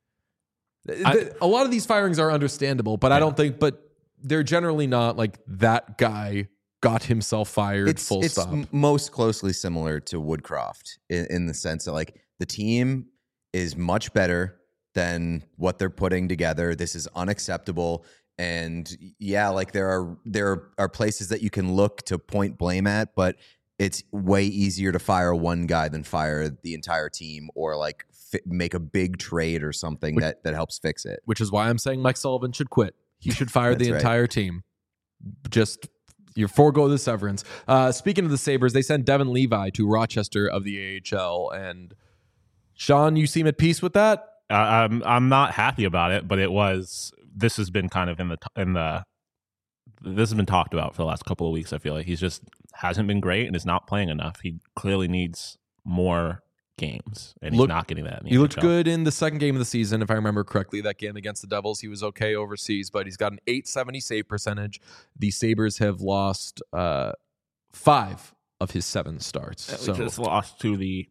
th- I- th- a lot of these firings are understandable, but I Yeah. don't think. But they're generally not like that guy got himself fired. it's full it's stop. m- most closely similar to Woodcroft in, in the sense that like the team is much better than what they're putting together. This is unacceptable. And yeah, like there are there are places that you can look to point blame at, but it's way easier to fire one guy than fire the entire team or like fi- make a big trade or something Which- that that helps fix it. Which is why I'm saying Mike Sullivan should quit. He should fire the That's right. entire team. Just you forego the severance. Uh, speaking of the Sabres, they sent Devin Levi to Rochester of the A H L. And Sean, you seem at peace with that? Uh, I'm I'm not happy about it, but it was. This has been kind of in the in the. This has been talked about for the last couple of weeks. I feel like he's just hasn't been great and is not playing enough. He clearly needs more games, and he's Look- not getting that. In the He looked N H L. good in the second game of the season, if I remember correctly. That game against the Devils, he was okay overseas, but he's got an eight seventy save percentage. The Sabres have lost uh, five of his seven starts. We So just lost to the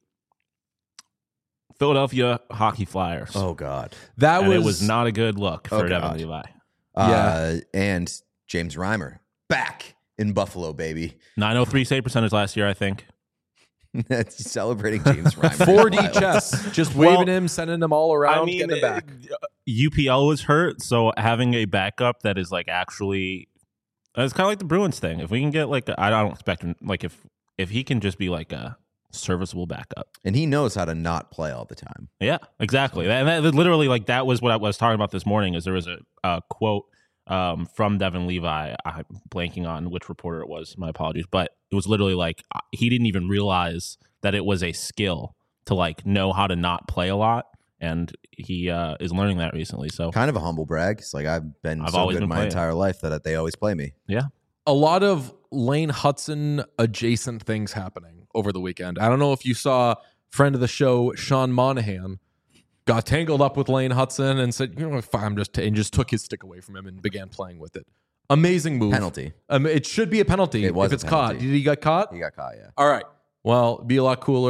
Philadelphia Hockey Flyers. Oh God. that and was, it was not a good look Oh, for Devin God. Levi. Uh, and James Reimer back in Buffalo, baby. nine oh three save percentage last year, I think. That's celebrating James Reimer. four D Wild. chess, just Well, waving him, sending him all around, getting him back. uh, U P L was hurt, so having a backup that is like actually, it's kind of like the Bruins thing. If we can get like, a, I don't expect him, like if if he can just be like a serviceable backup. And he knows how to not play all the time. Yeah, exactly. And that, literally, like that was what I was talking about this morning. Is there was a, a quote um, from Devin Levi. I'm blanking on which reporter it was. My apologies, but it was literally like uh, he didn't even realize that it was a skill to like know how to not play a lot, and he uh, is learning that recently. So Kind of a humble brag. It's like I've been I've so always good been my playing. entire life that they always play me. yeah, A lot of Lane Hudson adjacent things happening over the weekend. I don't know if you saw friend of the show, Sean Monahan, got tangled up with Lane Hudson and said, you know, fine, I'm just, and just took his stick away from him and began playing with it. Amazing move. Penalty. Um, it should be a penalty It was if a it's caught. penalty. Did he get caught? He got caught, yeah. All right. Well, be a lot cooler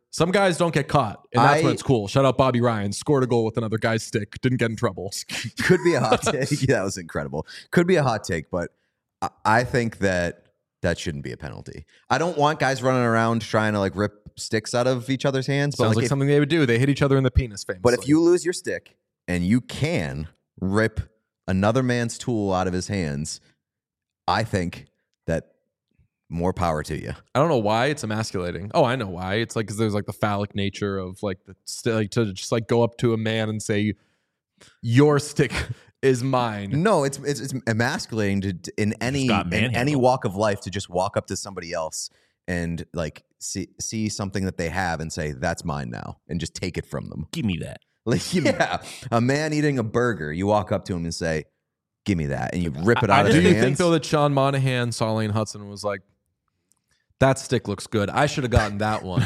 Some guys don't get caught, and that's I- when it's cool. Shout out Bobby Ryan. Scored a goal with another guy's stick. Didn't get in trouble. Could be a hot take. Yeah, that was incredible. Could be a hot take, but I, I think that that shouldn't be a penalty. I don't want guys running around trying to like rip sticks out of each other's hands. But Sounds like, like if, something they would do. They hit each other in the penis, famously. but if you lose your stick and you can rip another man's tool out of his hands, I think that more power to you. I don't know why it's emasculating. Oh, I know why. It's like because there's like the phallic nature of like the st- like to just like go up to a man and say, "Your stick is mine." No, it's it's, it's emasculating to, to- in any got in any manhandled. walk of life to just walk up to somebody else and like see see something that they have and say that's mine now and just take it from them. Give me that. Like yeah, a man eating a burger, you walk up to him and say, "Give me that," and you rip it I- out I of Do their you hands. think though that Sean Monahan saw Lane Hudson and was like, "That stick looks good. I should have gotten that one."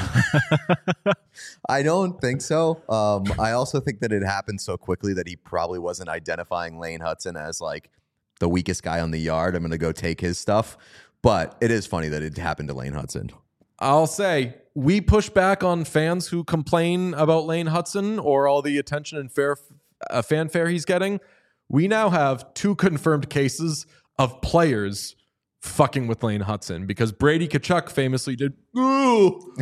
I don't think so. Um, I also think that it happened so quickly that he probably wasn't identifying Lane Hudson as like the weakest guy on the yard. I'm going to go take his stuff. But it is funny that it happened to Lane Hudson. I'll say we push back on fans who complain about Lane Hudson or all the attention and fair uh, fanfare he's getting. We now have two confirmed cases of players fucking with Lane Hudson because Brady Tkachuk famously did, oh,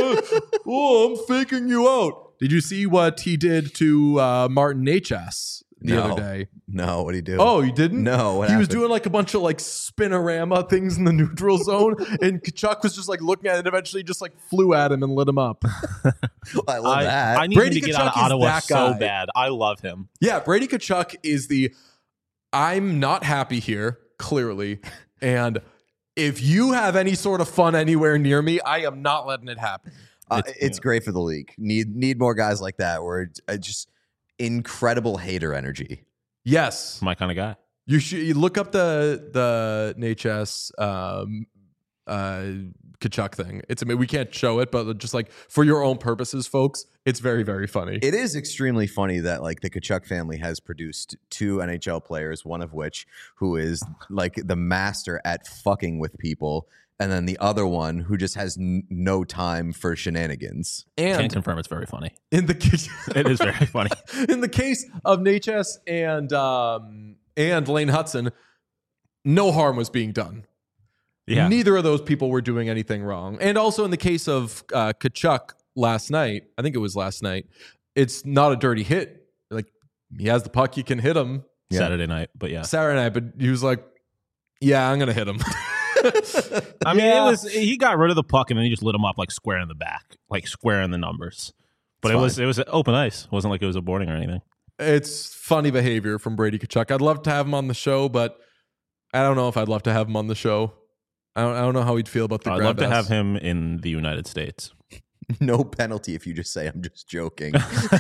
oh, I'm faking you out. Did you see what he did to uh, Martin H S the No. other day? No, what did he do? Oh, you didn't? No, what he was happened? doing like a bunch of like spinorama things in the neutral zone, and Tkachuk was just like looking at it and eventually just like flew at him and lit him up. I love I, that. I need Brady him to get Tkachuk out of is Ottawa that so guy. bad. I love him. Yeah, Brady Tkachuk is the I'm not happy here, clearly. And if you have any sort of fun anywhere near me, I am not letting it happen. Uh, It's- it's yeah. great for the league. Need need more guys like that where it's uh, just incredible hater energy. Yes. My kind of guy. You should you look up the the N H S um uh Tkachuk thing. It's I mean we can't show it, but just like for your own purposes, folks, it's very, very funny. It is extremely funny that like the Tkachuk family has produced two N H L players, one of which who is like the master at fucking with people, and then the other one who just has n- no time for shenanigans. Can't and confirm it's very funny. in the case It is very funny. in the case of N H S and um and Lane Hudson, no harm was being done. Yeah. Neither of those people were doing anything wrong. And also in the case of uh, Tkachuk last night, I think it was last night, it's not a dirty hit. Like he has the puck, you can hit him Yeah. Saturday night, but yeah. Saturday night, but he was like, yeah, I'm going to hit him. I mean, Yeah. it was he got rid of the puck and then he just lit him up like square in the back, like square in the numbers. But It's it was it was open ice. It wasn't like it was a boarding or anything. It's funny behavior from Brady Tkachuk. I'd love to have him on the show, but I don't know if I'd love to have him on the show. I don't, I don't know how he'd feel about the I'd grab love to ass. have him in the United States. No penalty if you just say I'm just joking.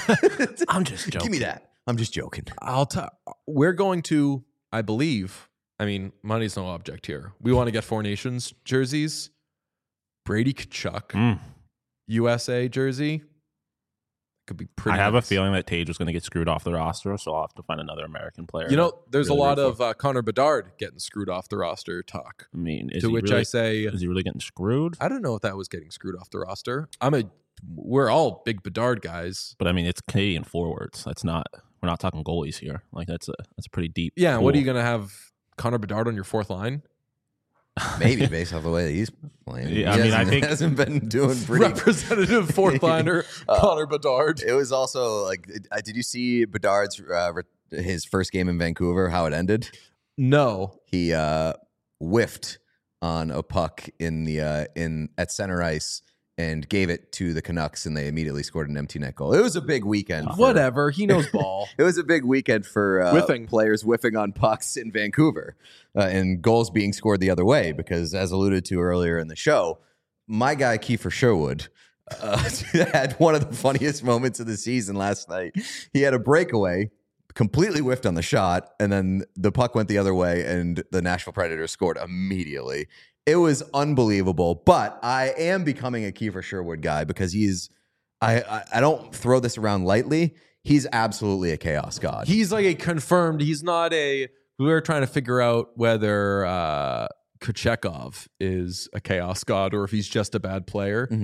I'm just joking. Give me that. I'm just joking. I'll tell. We're going to, I believe. I mean, money's no object here. We want to get Four Nations jerseys. Brady Tkachuk, Mm. U S A jersey. Could be pretty. I have a nice. feeling that Tage was going to get screwed off the roster, so I'll have to find another American player. You know, to there's really a lot root of uh, Connor Bedard getting screwed off the roster talk. for. I mean, is to he which really, I say, is he really getting screwed? I don't know if that was getting screwed off the roster. I'm a. We're all big Bedard guys. But I mean, it's Canadian forwards. That's not. We're not talking goalies here. Like that's a that's a pretty deep. Yeah. What are pool. you going to have Connor Bedard on your fourth line? Maybe based off the way that he's playing. Yeah, He I mean, I hasn't- think- hasn't been doing pretty. Representative fourth liner Uh, Connor Bedard. It was also like, uh, did you see Bedard's uh, re- his first game in Vancouver? How it ended? No. He uh, whiffed on a puck in the uh, in at center ice and gave it to the Canucks, and they immediately scored an empty net goal. It was a big weekend. for- Whatever. He knows ball. It was a big weekend for uh, Whiffing. players whiffing on pucks in Vancouver uh, and goals being scored the other way because, as alluded to earlier in the show, my guy Kiefer Sherwood uh, had one of the funniest moments of the season last night. He had a breakaway, completely whiffed on the shot, and then the puck went the other way, and the Nashville Predators scored immediately. It was unbelievable, but I am becoming a Kiefer Sherwood guy because he's I, I I don't throw this around lightly. He's absolutely a chaos god. He's like a confirmed. He's not a. We were trying to figure out whether uh, Kochekov is a chaos god or if he's just a bad player. Mhm.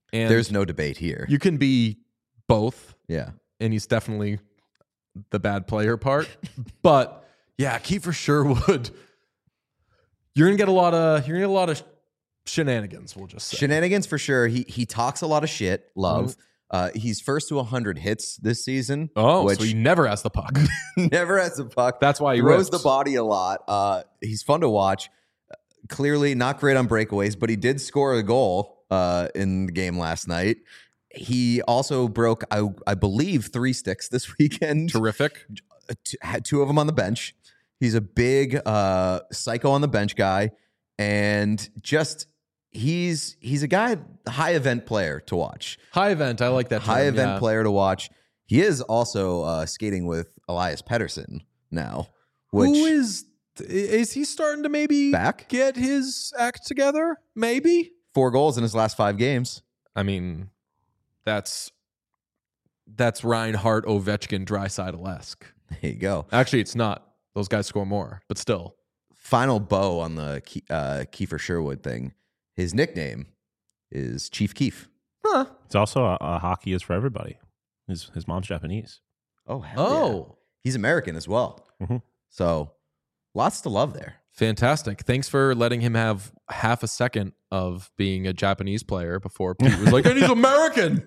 And There's no debate here. you can be both, yeah. and he's definitely the bad player part. But yeah, Kiefer Sherwood, you're gonna get a lot of you're gonna get a lot of shenanigans. We'll just say. Shenanigans for sure. He he talks a lot of shit. Love. Mm-hmm. Uh, he's first to one hundred hits this season. Oh, which so he never has the puck. never has a puck. That's why he throws rips. the body a lot. Uh, he's fun to watch. Clearly not great on breakaways, but he did score a goal uh, in the game last night. He also broke, I, I believe, three sticks this weekend. Terrific. T- had two of them on the bench. He's a big uh, psycho on the bench guy, and just he's he's a guy, high event player to watch. High event. I like that. High term, event yeah. player to watch. He is also uh, skating with Elias Pettersson now. Which Who is is he starting to maybe Back? get his act together? Maybe. four goals in his last five games. I mean, that's that's Reinhardt, Ovechkin, Draisaitl-esque. There you go. Actually, it's not. Those guys score more, but still. Final bow on the Ke- uh, Kiefer Sherwood thing. His nickname is Chief Keef. Huh. It's also a, a hockey is for everybody. His his mom's Japanese. Oh, hell yeah. Oh, He's American as well. Mhm. So lots to love there. fantastic. Thanks for letting him have half a second of being a Japanese player before Pete was like, and he's American.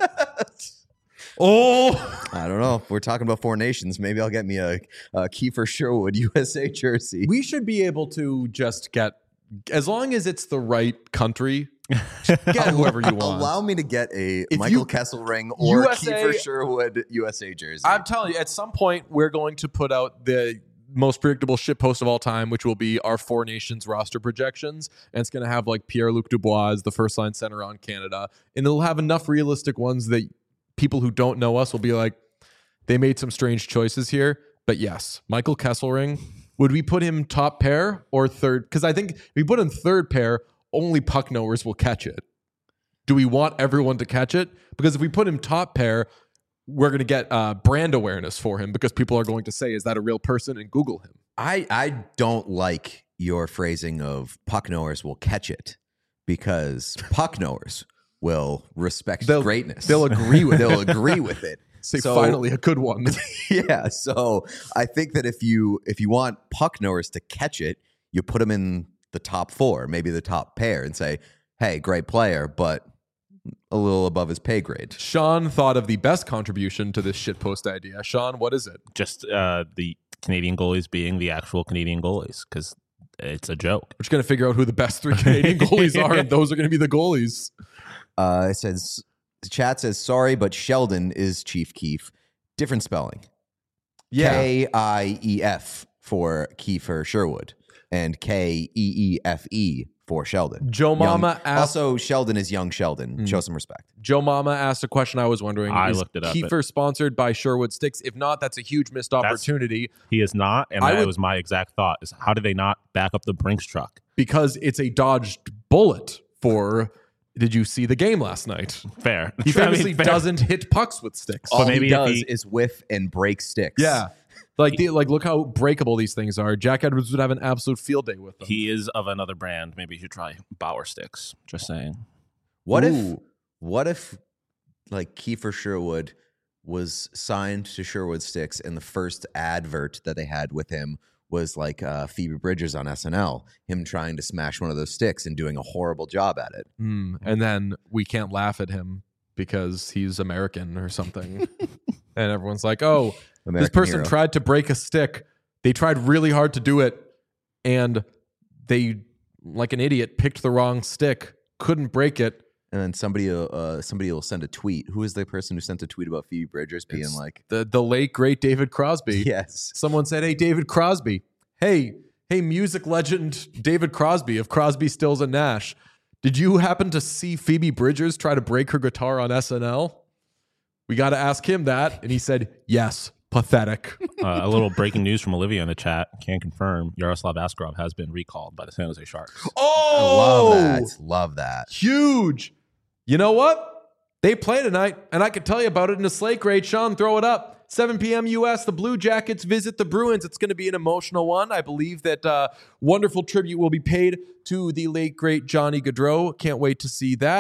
Oh, I don't know. If we're talking about four nations, maybe I'll get me a, a Kiefer Sherwood U S A jersey. we should be able to just get, as long as it's the right country, get whoever you want. Allow me to get a If Michael you- Kessel ring or U S A Kiefer Sherwood U S A jersey. I'm telling you, at some point, we're going to put out the most predictable shit post of all time, which will be our Four Nations roster projections. And it's going to have like Pierre-Luc Dubois as the first line center on Canada. And it'll have enough realistic ones that people who don't know us will be like, they made some strange choices here. But yes, Michael Kesselring, would we put him top pair or third? Because I think if we put him third pair, only puck knowers will catch it. Do we want everyone to catch it? Because if we put him top pair, we're going to get uh, brand awareness for him because people are going to say, is that a real person? And Google him. I, I don't like your phrasing of puck knowers will catch it because puck knowers will respect They'll- greatness. They'll agree with They'll it. agree with it. Say, So- finally, a good one. Yeah. So I think that if you if you want puck knowers to catch it, you put them in the top four, maybe the top pair, and say, hey, great player, but a little above his pay grade. Sean thought of the best contribution to this shitpost idea. Sean, what is it? Just uh, the Canadian goalies being the actual Canadian goalies because it's a joke. We're just going to figure out who the best three Canadian goalies are, and those are going to be the goalies. Uh, it says the chat says sorry, but Sheldon is Chief Keef. Different spelling. K I E F for Kiefer Sherwood and K E E F E for Sheldon. Joe Young- Mama asked. Also, Sheldon is young Sheldon. Mm. Show some respect. Joe Mama asked a question I was wondering. I is looked it up. Kiefer sponsored by Sherwood Sticks? If not, that's a huge missed opportunity He is not, and I that would- was my exact thought: is how did they not back up the Brinks truck? because it's a dodged bullet for. Did you see the game last night? Fair. He I mean, famously fair. doesn't hit pucks with sticks. All maybe he if does he- is whiff and break sticks. Yeah. Like, the, like, look how breakable these things are. Jack Edwards would have an absolute field day with them. He is of another brand. Maybe you should try Bauer sticks. Just saying. What if Ooh. what if like Kiefer Sherwood was signed to Sherwood Sticks and the first advert that they had with him was like uh, Phoebe Bridgers on S N L, him trying to smash one of those sticks and doing a horrible job at it. Hmm. And then we can't laugh at him because he's American or something. And everyone's like, oh, American this person hero. tried to break a stick. They tried really hard to do it. And they, like an idiot, picked the wrong stick, couldn't break it. And then somebody uh, uh, somebody will send a tweet. Who is the person who sent a tweet about Phoebe Bridgers being It's like, The, the late, great David Crosby. yes. Someone said, hey, David Crosby. Hey, hey, music legend David Crosby of Crosby, Stills, and Nash. Did you happen to see Phoebe Bridgers try to break her guitar on S N L? We got to ask him that. And he said, yes, pathetic. Uh, a little breaking news from Olivia in the chat. Can confirm Yaroslav Askarov has been recalled by the San Jose Sharks. Oh, I love that. Love that. Huge. You know what? They play tonight, and I could tell you about it in a slate grade. Sean, throw it up. seven p.m. U S, the Blue Jackets visit the Bruins. It's going to be an emotional one. I believe that uh, wonderful tribute will be paid to the late, great Johnny Gaudreau. Can't wait to see that.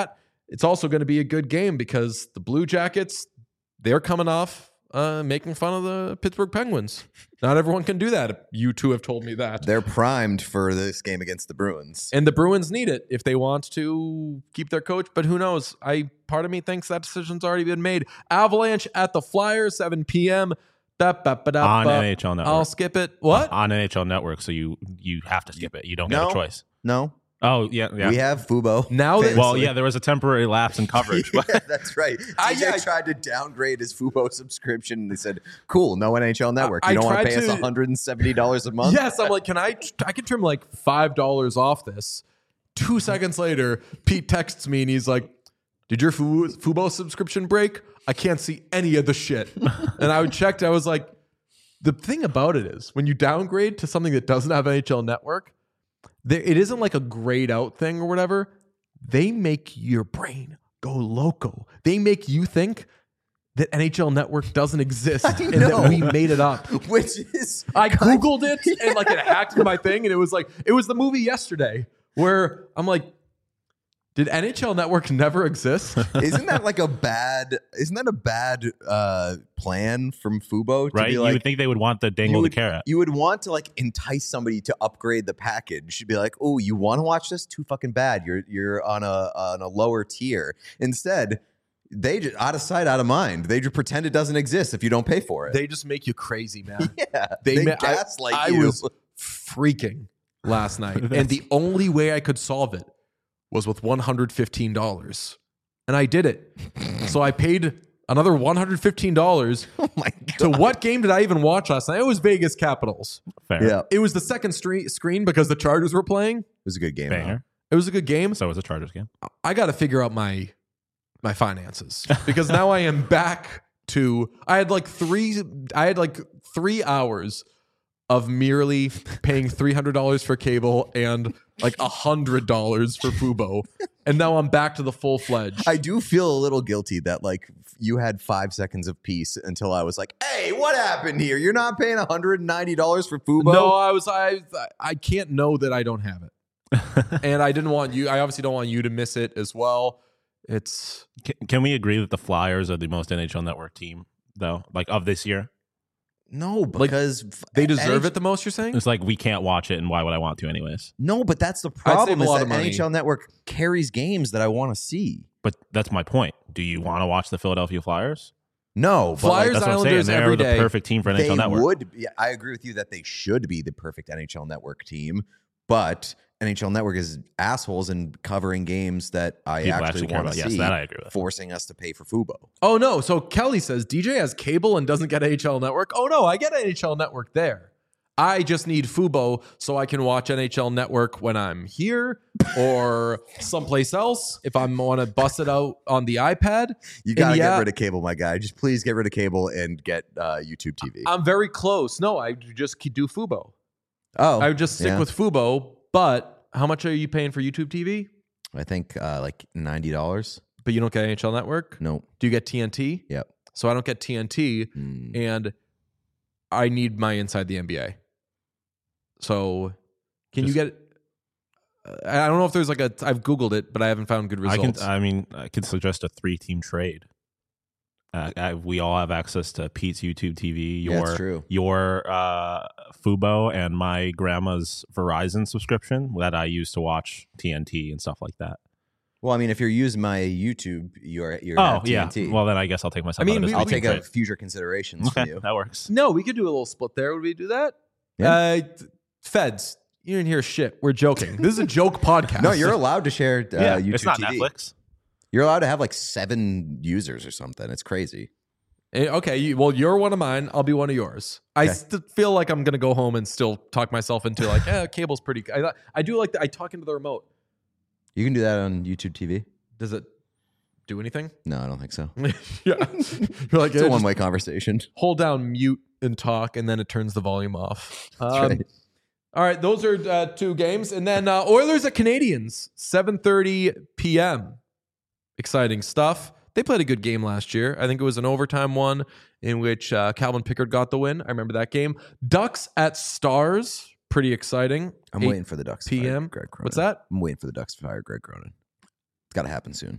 it's also going to be a good game because the Blue Jackets, they're coming off uh, making fun of the Pittsburgh Penguins. Not everyone can do that. You two have told me that. They're primed for this game against the Bruins. And the Bruins need it if they want to keep their coach, but who knows? I part of me thinks that decision's already been made. Avalanche at the Flyers, seven p.m. Da, ba, ba, da, On ba. N H L Network. I'll skip it. What? On N H L Network, so you you have to skip it. You don't No. get a choice. No, Oh, yeah, yeah. we have Fubo. Now that- Well, yeah, there was a temporary lapse in coverage. Yeah, that's right. D J I- yeah, I- tried to downgrade his Fubo subscription, and they said, "Cool, no N H L Network. I- You I don't want to tried pay us to- one hundred seventy dollars a month." Yes, I'm like, can I? I can trim like five dollars off this. Two seconds later, Pete texts me and he's like, "Did your Fu- Fubo subscription break? I can't see any of the shit." And I checked. I was like, the thing about it is when you downgrade to something that doesn't have N H L Network, there, it isn't like a grayed out thing or whatever. They make your brain go loco. They make you think that N H L Network doesn't exist and know. that we made it up. Which is I Googled it and like it hacked into my thing, and it was like it was the movie Yesterday where I'm like, did N H L Network never exist? isn't that like a bad? Isn't that a bad uh, plan from Fubo? To Right? Be You like, would think they would want the you dangle would, the carrot. you would want to like entice somebody to upgrade the package. You'd be like, "Oh, you want to watch this? Too fucking bad. You're you're on a on a lower tier." Instead, they just out of sight, out of mind. They just pretend it doesn't exist if you don't pay for it. They just make you crazy, man. yeah, They, they, ma- I- gaslight I, you. was freaking last night, and the only way I could solve it was with one hundred fifteen dollars, and I did it. So I paid another one hundred fifteen dollars. Oh my To god! what game did I even watch last night? It was Vegas Capitals. Fair. Yeah, it It was the second stre- screen because the Chargers were playing. was a good game. Banger. It was a good game. So was the Chargers game. I got to figure out my my finances because now I am back to I had like three I had like three hours of merely paying three hundred dollars for cable and like one hundred dollars for Fubo, and now I'm back to the full fledged. I do feel a little guilty that like you had five seconds of peace until I was like, "Hey, what happened here? You're not paying one hundred ninety dollars for Fubo." No, I was I I can't know that I don't have it, and I didn't want you. I obviously don't want you to miss it as well. It's Can, can we agree that the Flyers are the most N H L Network team, though? Like of this year? No, because they deserve N H- it the most. You're saying? It's like we can't watch it, and why would I want to, anyways? No, but that's the save problem. a Is lot that of money. N H L Network carries games that I want to see. But that's my point. Do you want to watch the Philadelphia Flyers? No, but Flyers, That's what I'm saying. Islanders They're every the day. perfect team for like, N H L they Network. would. Yeah, I agree with you that they should be the perfect N H L Network team, but N H L Network is assholes in covering games that I People actually, actually care want about. to Yes, see, that I agree with. forcing us to pay for Fubo. Oh no! So Kelly says D J has cable and doesn't get N H L Network. Oh no, I get N H L Network there. I just need Fubo so I can watch N H L Network when I'm here or someplace else. If I want to bust it out on the iPad, You got to yeah, get rid of cable, my guy. Just please get rid of cable and get uh, YouTube T V. I'm very close. No, I just keep- do Fubo. oh, I would just stick yeah. with Fubo. But how much are you paying for YouTube T V? I think uh, like ninety dollars. But you don't get N H L Network. No. Do you get T N T? Yep. So I don't get T N T, Mm. and I need my Inside the N B A. So, can you Just- get? Uh, I don't know if there's like a. I've Googled it, but I haven't found good I results. can. I mean, I can suggest a three-team trade. Uh, I, we all have access to Pete's YouTube T V, Yeah, your that's true. your uh, Fubo, and my grandma's Verizon subscription that I use to watch T N T and stuff like that. Well, I mean, if you're using my YouTube, you're you're Oh at yeah. T N T. Well, then I guess I'll take myself. I mean, out of we- this I'll three-team take a trade. future considerations Okay, from you. that works. no, we could do a little split there. Would we do that? Yeah. Uh, th- feds, you didn't hear shit. We're joking. This is a joke podcast. No, you're allowed to share uh, yeah, YouTube it's not T V. Netflix. You're allowed to have like seven users or something. It's crazy. Eh, Okay, you, well, you're one of mine. I'll be one of yours. I Okay. st- feel like I'm gonna go home and still talk myself into like, eh, cable's pretty. I, I do like that. I talk into the remote. You can do that on YouTube T V. Does it do anything? No, I don't think so. yeah, you're like, It's eh, a just one-way conversation. hold down mute and talk, and then it turns the volume off. That's Um, right. All right, those are uh, two games, and then uh, Oilers at Canadians, seven thirty p.m. Exciting stuff. They played a good game last year. I think it was an overtime one in which uh, Calvin Pickard got the win. I remember that game. Ducks at Stars, pretty exciting. I'm eight waiting for the Ducks to p m. fire Greg Cronin. What's that? I'm waiting for the Ducks to fire Greg Cronin. It's got to happen soon.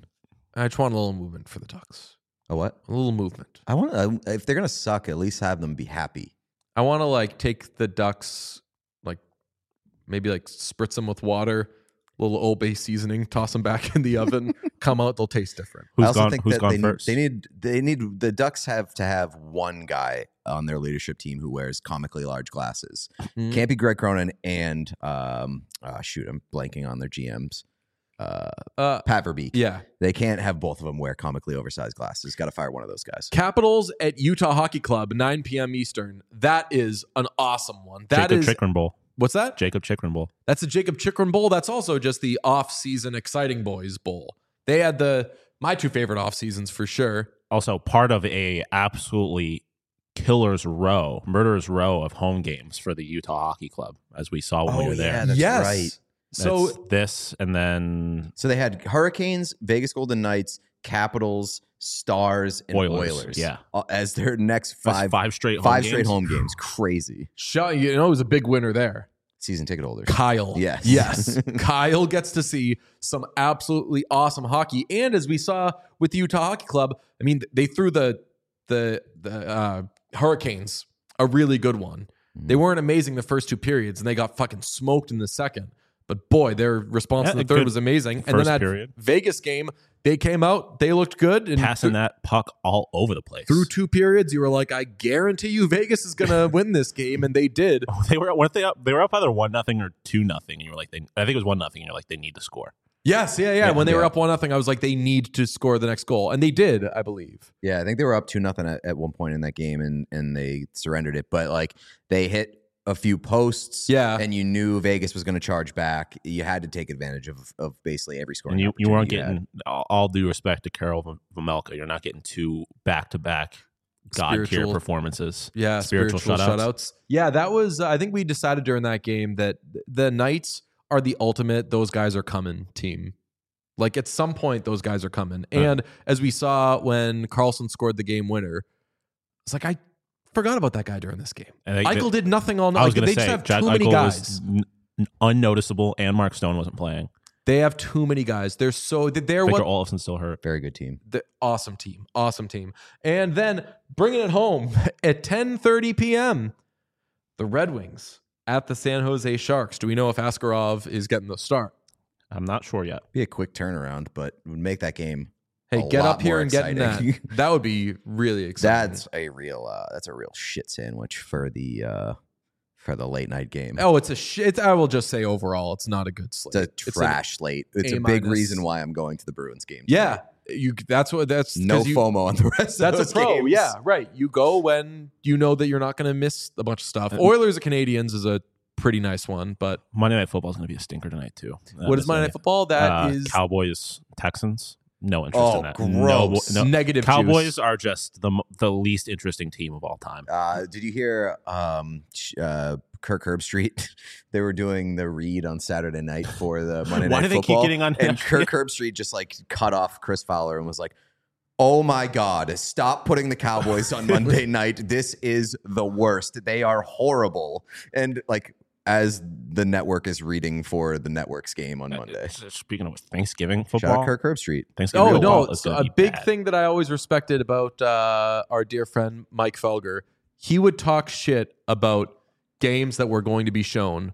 I just want a little movement for the Ducks. A what? A little movement. I want to. If they're gonna suck, at least have them be happy. I want to like take the Ducks, like maybe like spritz them with water, a little Old Bay seasoning, toss them back in the oven, come out, they'll taste different. I Who's also gone? think Who's that gone they first? need, they need they need the Ducks have to have one guy on their leadership team who wears comically large glasses. Mhm. Can't be Greg Cronin and um uh, shoot, I'm blanking on their G Ms. Uh, Uh, Pat Verbeek. yeah. They can't have both of them wear comically oversized glasses. Got to fire one of those guys. Capitals at Utah Hockey Club, nine p.m. Eastern. That is an awesome one. That Jacob is Chikrin Bowl. what's that? Jacob Chikrin Bowl. That's the Jacob Chikrin Bowl. That's also just the off-season Exciting Boys Bowl. They had the my two favorite off seasons for sure. Also part of a absolutely killer's row, murderer's row of home games for the Utah Hockey Club, as we saw when we were there. yeah, that's yes. right. So That's this, and then So they had Hurricanes, Vegas Golden Knights, Capitals, Stars, and Oilers, Oilers, yeah. uh, as their next that's five five straight home five games. straight home games. Crazy. Shaw, you know, it was a big winner there. Season ticket holders. Kyle. Yes. Yes. Kyle gets to see some absolutely awesome hockey. And as we saw with the Utah Hockey Club, I mean, they threw the the the uh, Hurricanes a really good one. They weren't amazing the first two periods, and they got fucking smoked in the second. But boy, their response Yeah, in the a third good was amazing. And then first that period. Vegas game, they came out, they looked good. And Passing th- that puck all over the place. through two periods, you were like, I guarantee you Vegas is going to win this game. And they did. Oh, they were weren't they up? They were up either one nothing or two nothing. You were like, they, I think it was one nothing. You're like, they need to score. Yes, yeah, yeah. Yeah, when they were yeah. up one nothing, I was like, they need to score the next goal, and they did, I believe. Yeah, I think they were up two nothing at, at one point in that game, and and they surrendered it. But like they hit a few posts, Yeah. and you knew Vegas was going to charge back. You had to take advantage of of basically every scoring. And you, you weren't opportunity had. getting all, all due respect to Carol V- Vejmelka. You're not getting two back to back god tier Spiritual- performances. Yeah, Spiritual spiritual, shutouts. shutouts. Yeah, that was. Uh, I think we decided during that game that the Knights are the ultimate. Those guys are coming team. Like at some point, those guys are coming. Huh. And as we saw when Carlson scored the game winner, it's like I forgot about that guy during this game. And they- Eichel did nothing all night. I was Like, going they to say, just have Jack too many Eichel guys. was n- n- unnoticeable, and Mark Stone wasn't playing. They have too many guys. They're so they're Victor what Olofsson still hurt. Very good team. the awesome team, awesome team. And then bringing it home at ten thirty p.m. the Red Wings at the San Jose Sharks. Do we know if Askarov is getting the start? I'm not sure yet. Be a quick turnaround, but would make that game. Hey, a get lot up here more and get in that. exciting. That would be really exciting. That's a real. Uh, that's a real shit sandwich for the uh, for the late night game. oh, it's a shit. It's, I will just say overall, it's not a good slate. It's a an- trash slate. It's A a big minus. reason why I'm going to the Bruins game. yeah, you. That's what. That's no 'cause you, FOMO on the rest. That's of a those pro. games. Yeah, right. You go when you know that you're not going to miss a bunch of stuff. Oilers and Canadians is a pretty nice one, but Monday Night Football is going to be a stinker tonight too. what is Monday Night Football? That is uh, Cowboys Texans. No interest Oh, in that. gross. No, no. negative Cowboys juice. are just the m- the least interesting team of all time. Uh, did you hear um, sh- uh, Kirk Herbstreit? They were doing the read on Saturday night for the Monday Why Night do they Football, keep getting on him? and Kirk Herbstreit just like cut off Chris Fowler and was like, "Oh my God, stop putting the Cowboys on Monday night. This is the worst. They are horrible." And like as the network is reading for the network's game on Monday. Uh, Speaking of Thanksgiving Shout football, out Kirk Herbstreit. Thanksgiving Oh football no! is So gonna a be big bad. thing that I always respected about uh, our dear friend Mike Felger, he would talk shit about games that were going to be shown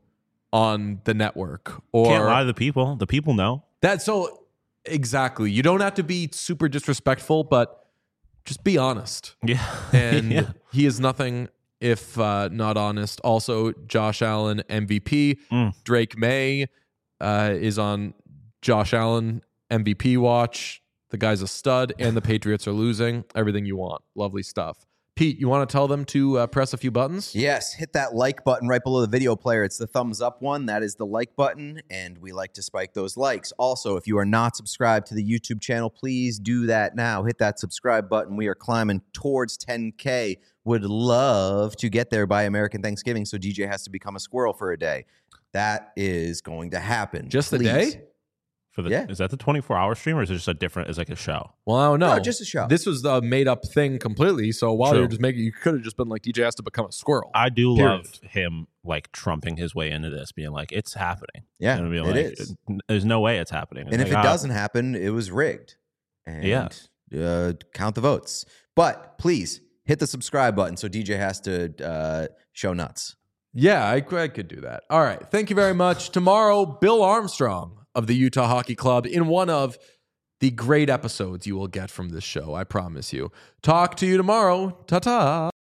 on the network, or Can't lie to the people. The people know. that. So exactly, you don't have to be super disrespectful, but just be honest. Yeah, And yeah. he is nothing if uh, not honest. Also, Josh Allen M V P. Mm. Drake May uh, is on Josh Allen M V P watch. The guy's a stud, and the Patriots are losing. Everything you want. Lovely stuff. Pete, you want to tell them to uh, press a few buttons? Yes, hit that like button right below the video player. It's the thumbs up one. That is the like button, and we like to spike those likes. Also, if you are not subscribed to the YouTube channel, please do that now. Hit that subscribe button. We are climbing towards ten K. Would love to get there by American Thanksgiving, so D J has to become a squirrel for a day. That is going to happen. Just the Please. day? For the, Yeah. Is that the twenty-four hour stream, or is it just a different? Is like a show? Well, I don't know. No, just a show. This was the made up thing completely. So while True. you're just making, you could have just been like, D J has to become a squirrel. I do Period. love him like trumping his way into this, being like, "It's happening." Yeah, And being it like, is. There's no way it's happening. And if Like, it ah, doesn't happen, it was rigged. and Yeah. uh, count the votes. But please hit the subscribe button so D J has to uh, show nuts. Yeah, I, I could do that. All right. Thank you very much. Tomorrow, Bill Armstrong of the Utah Hockey Club in one of the great episodes you will get from this show. I promise you. Talk to you tomorrow. Ta-ta.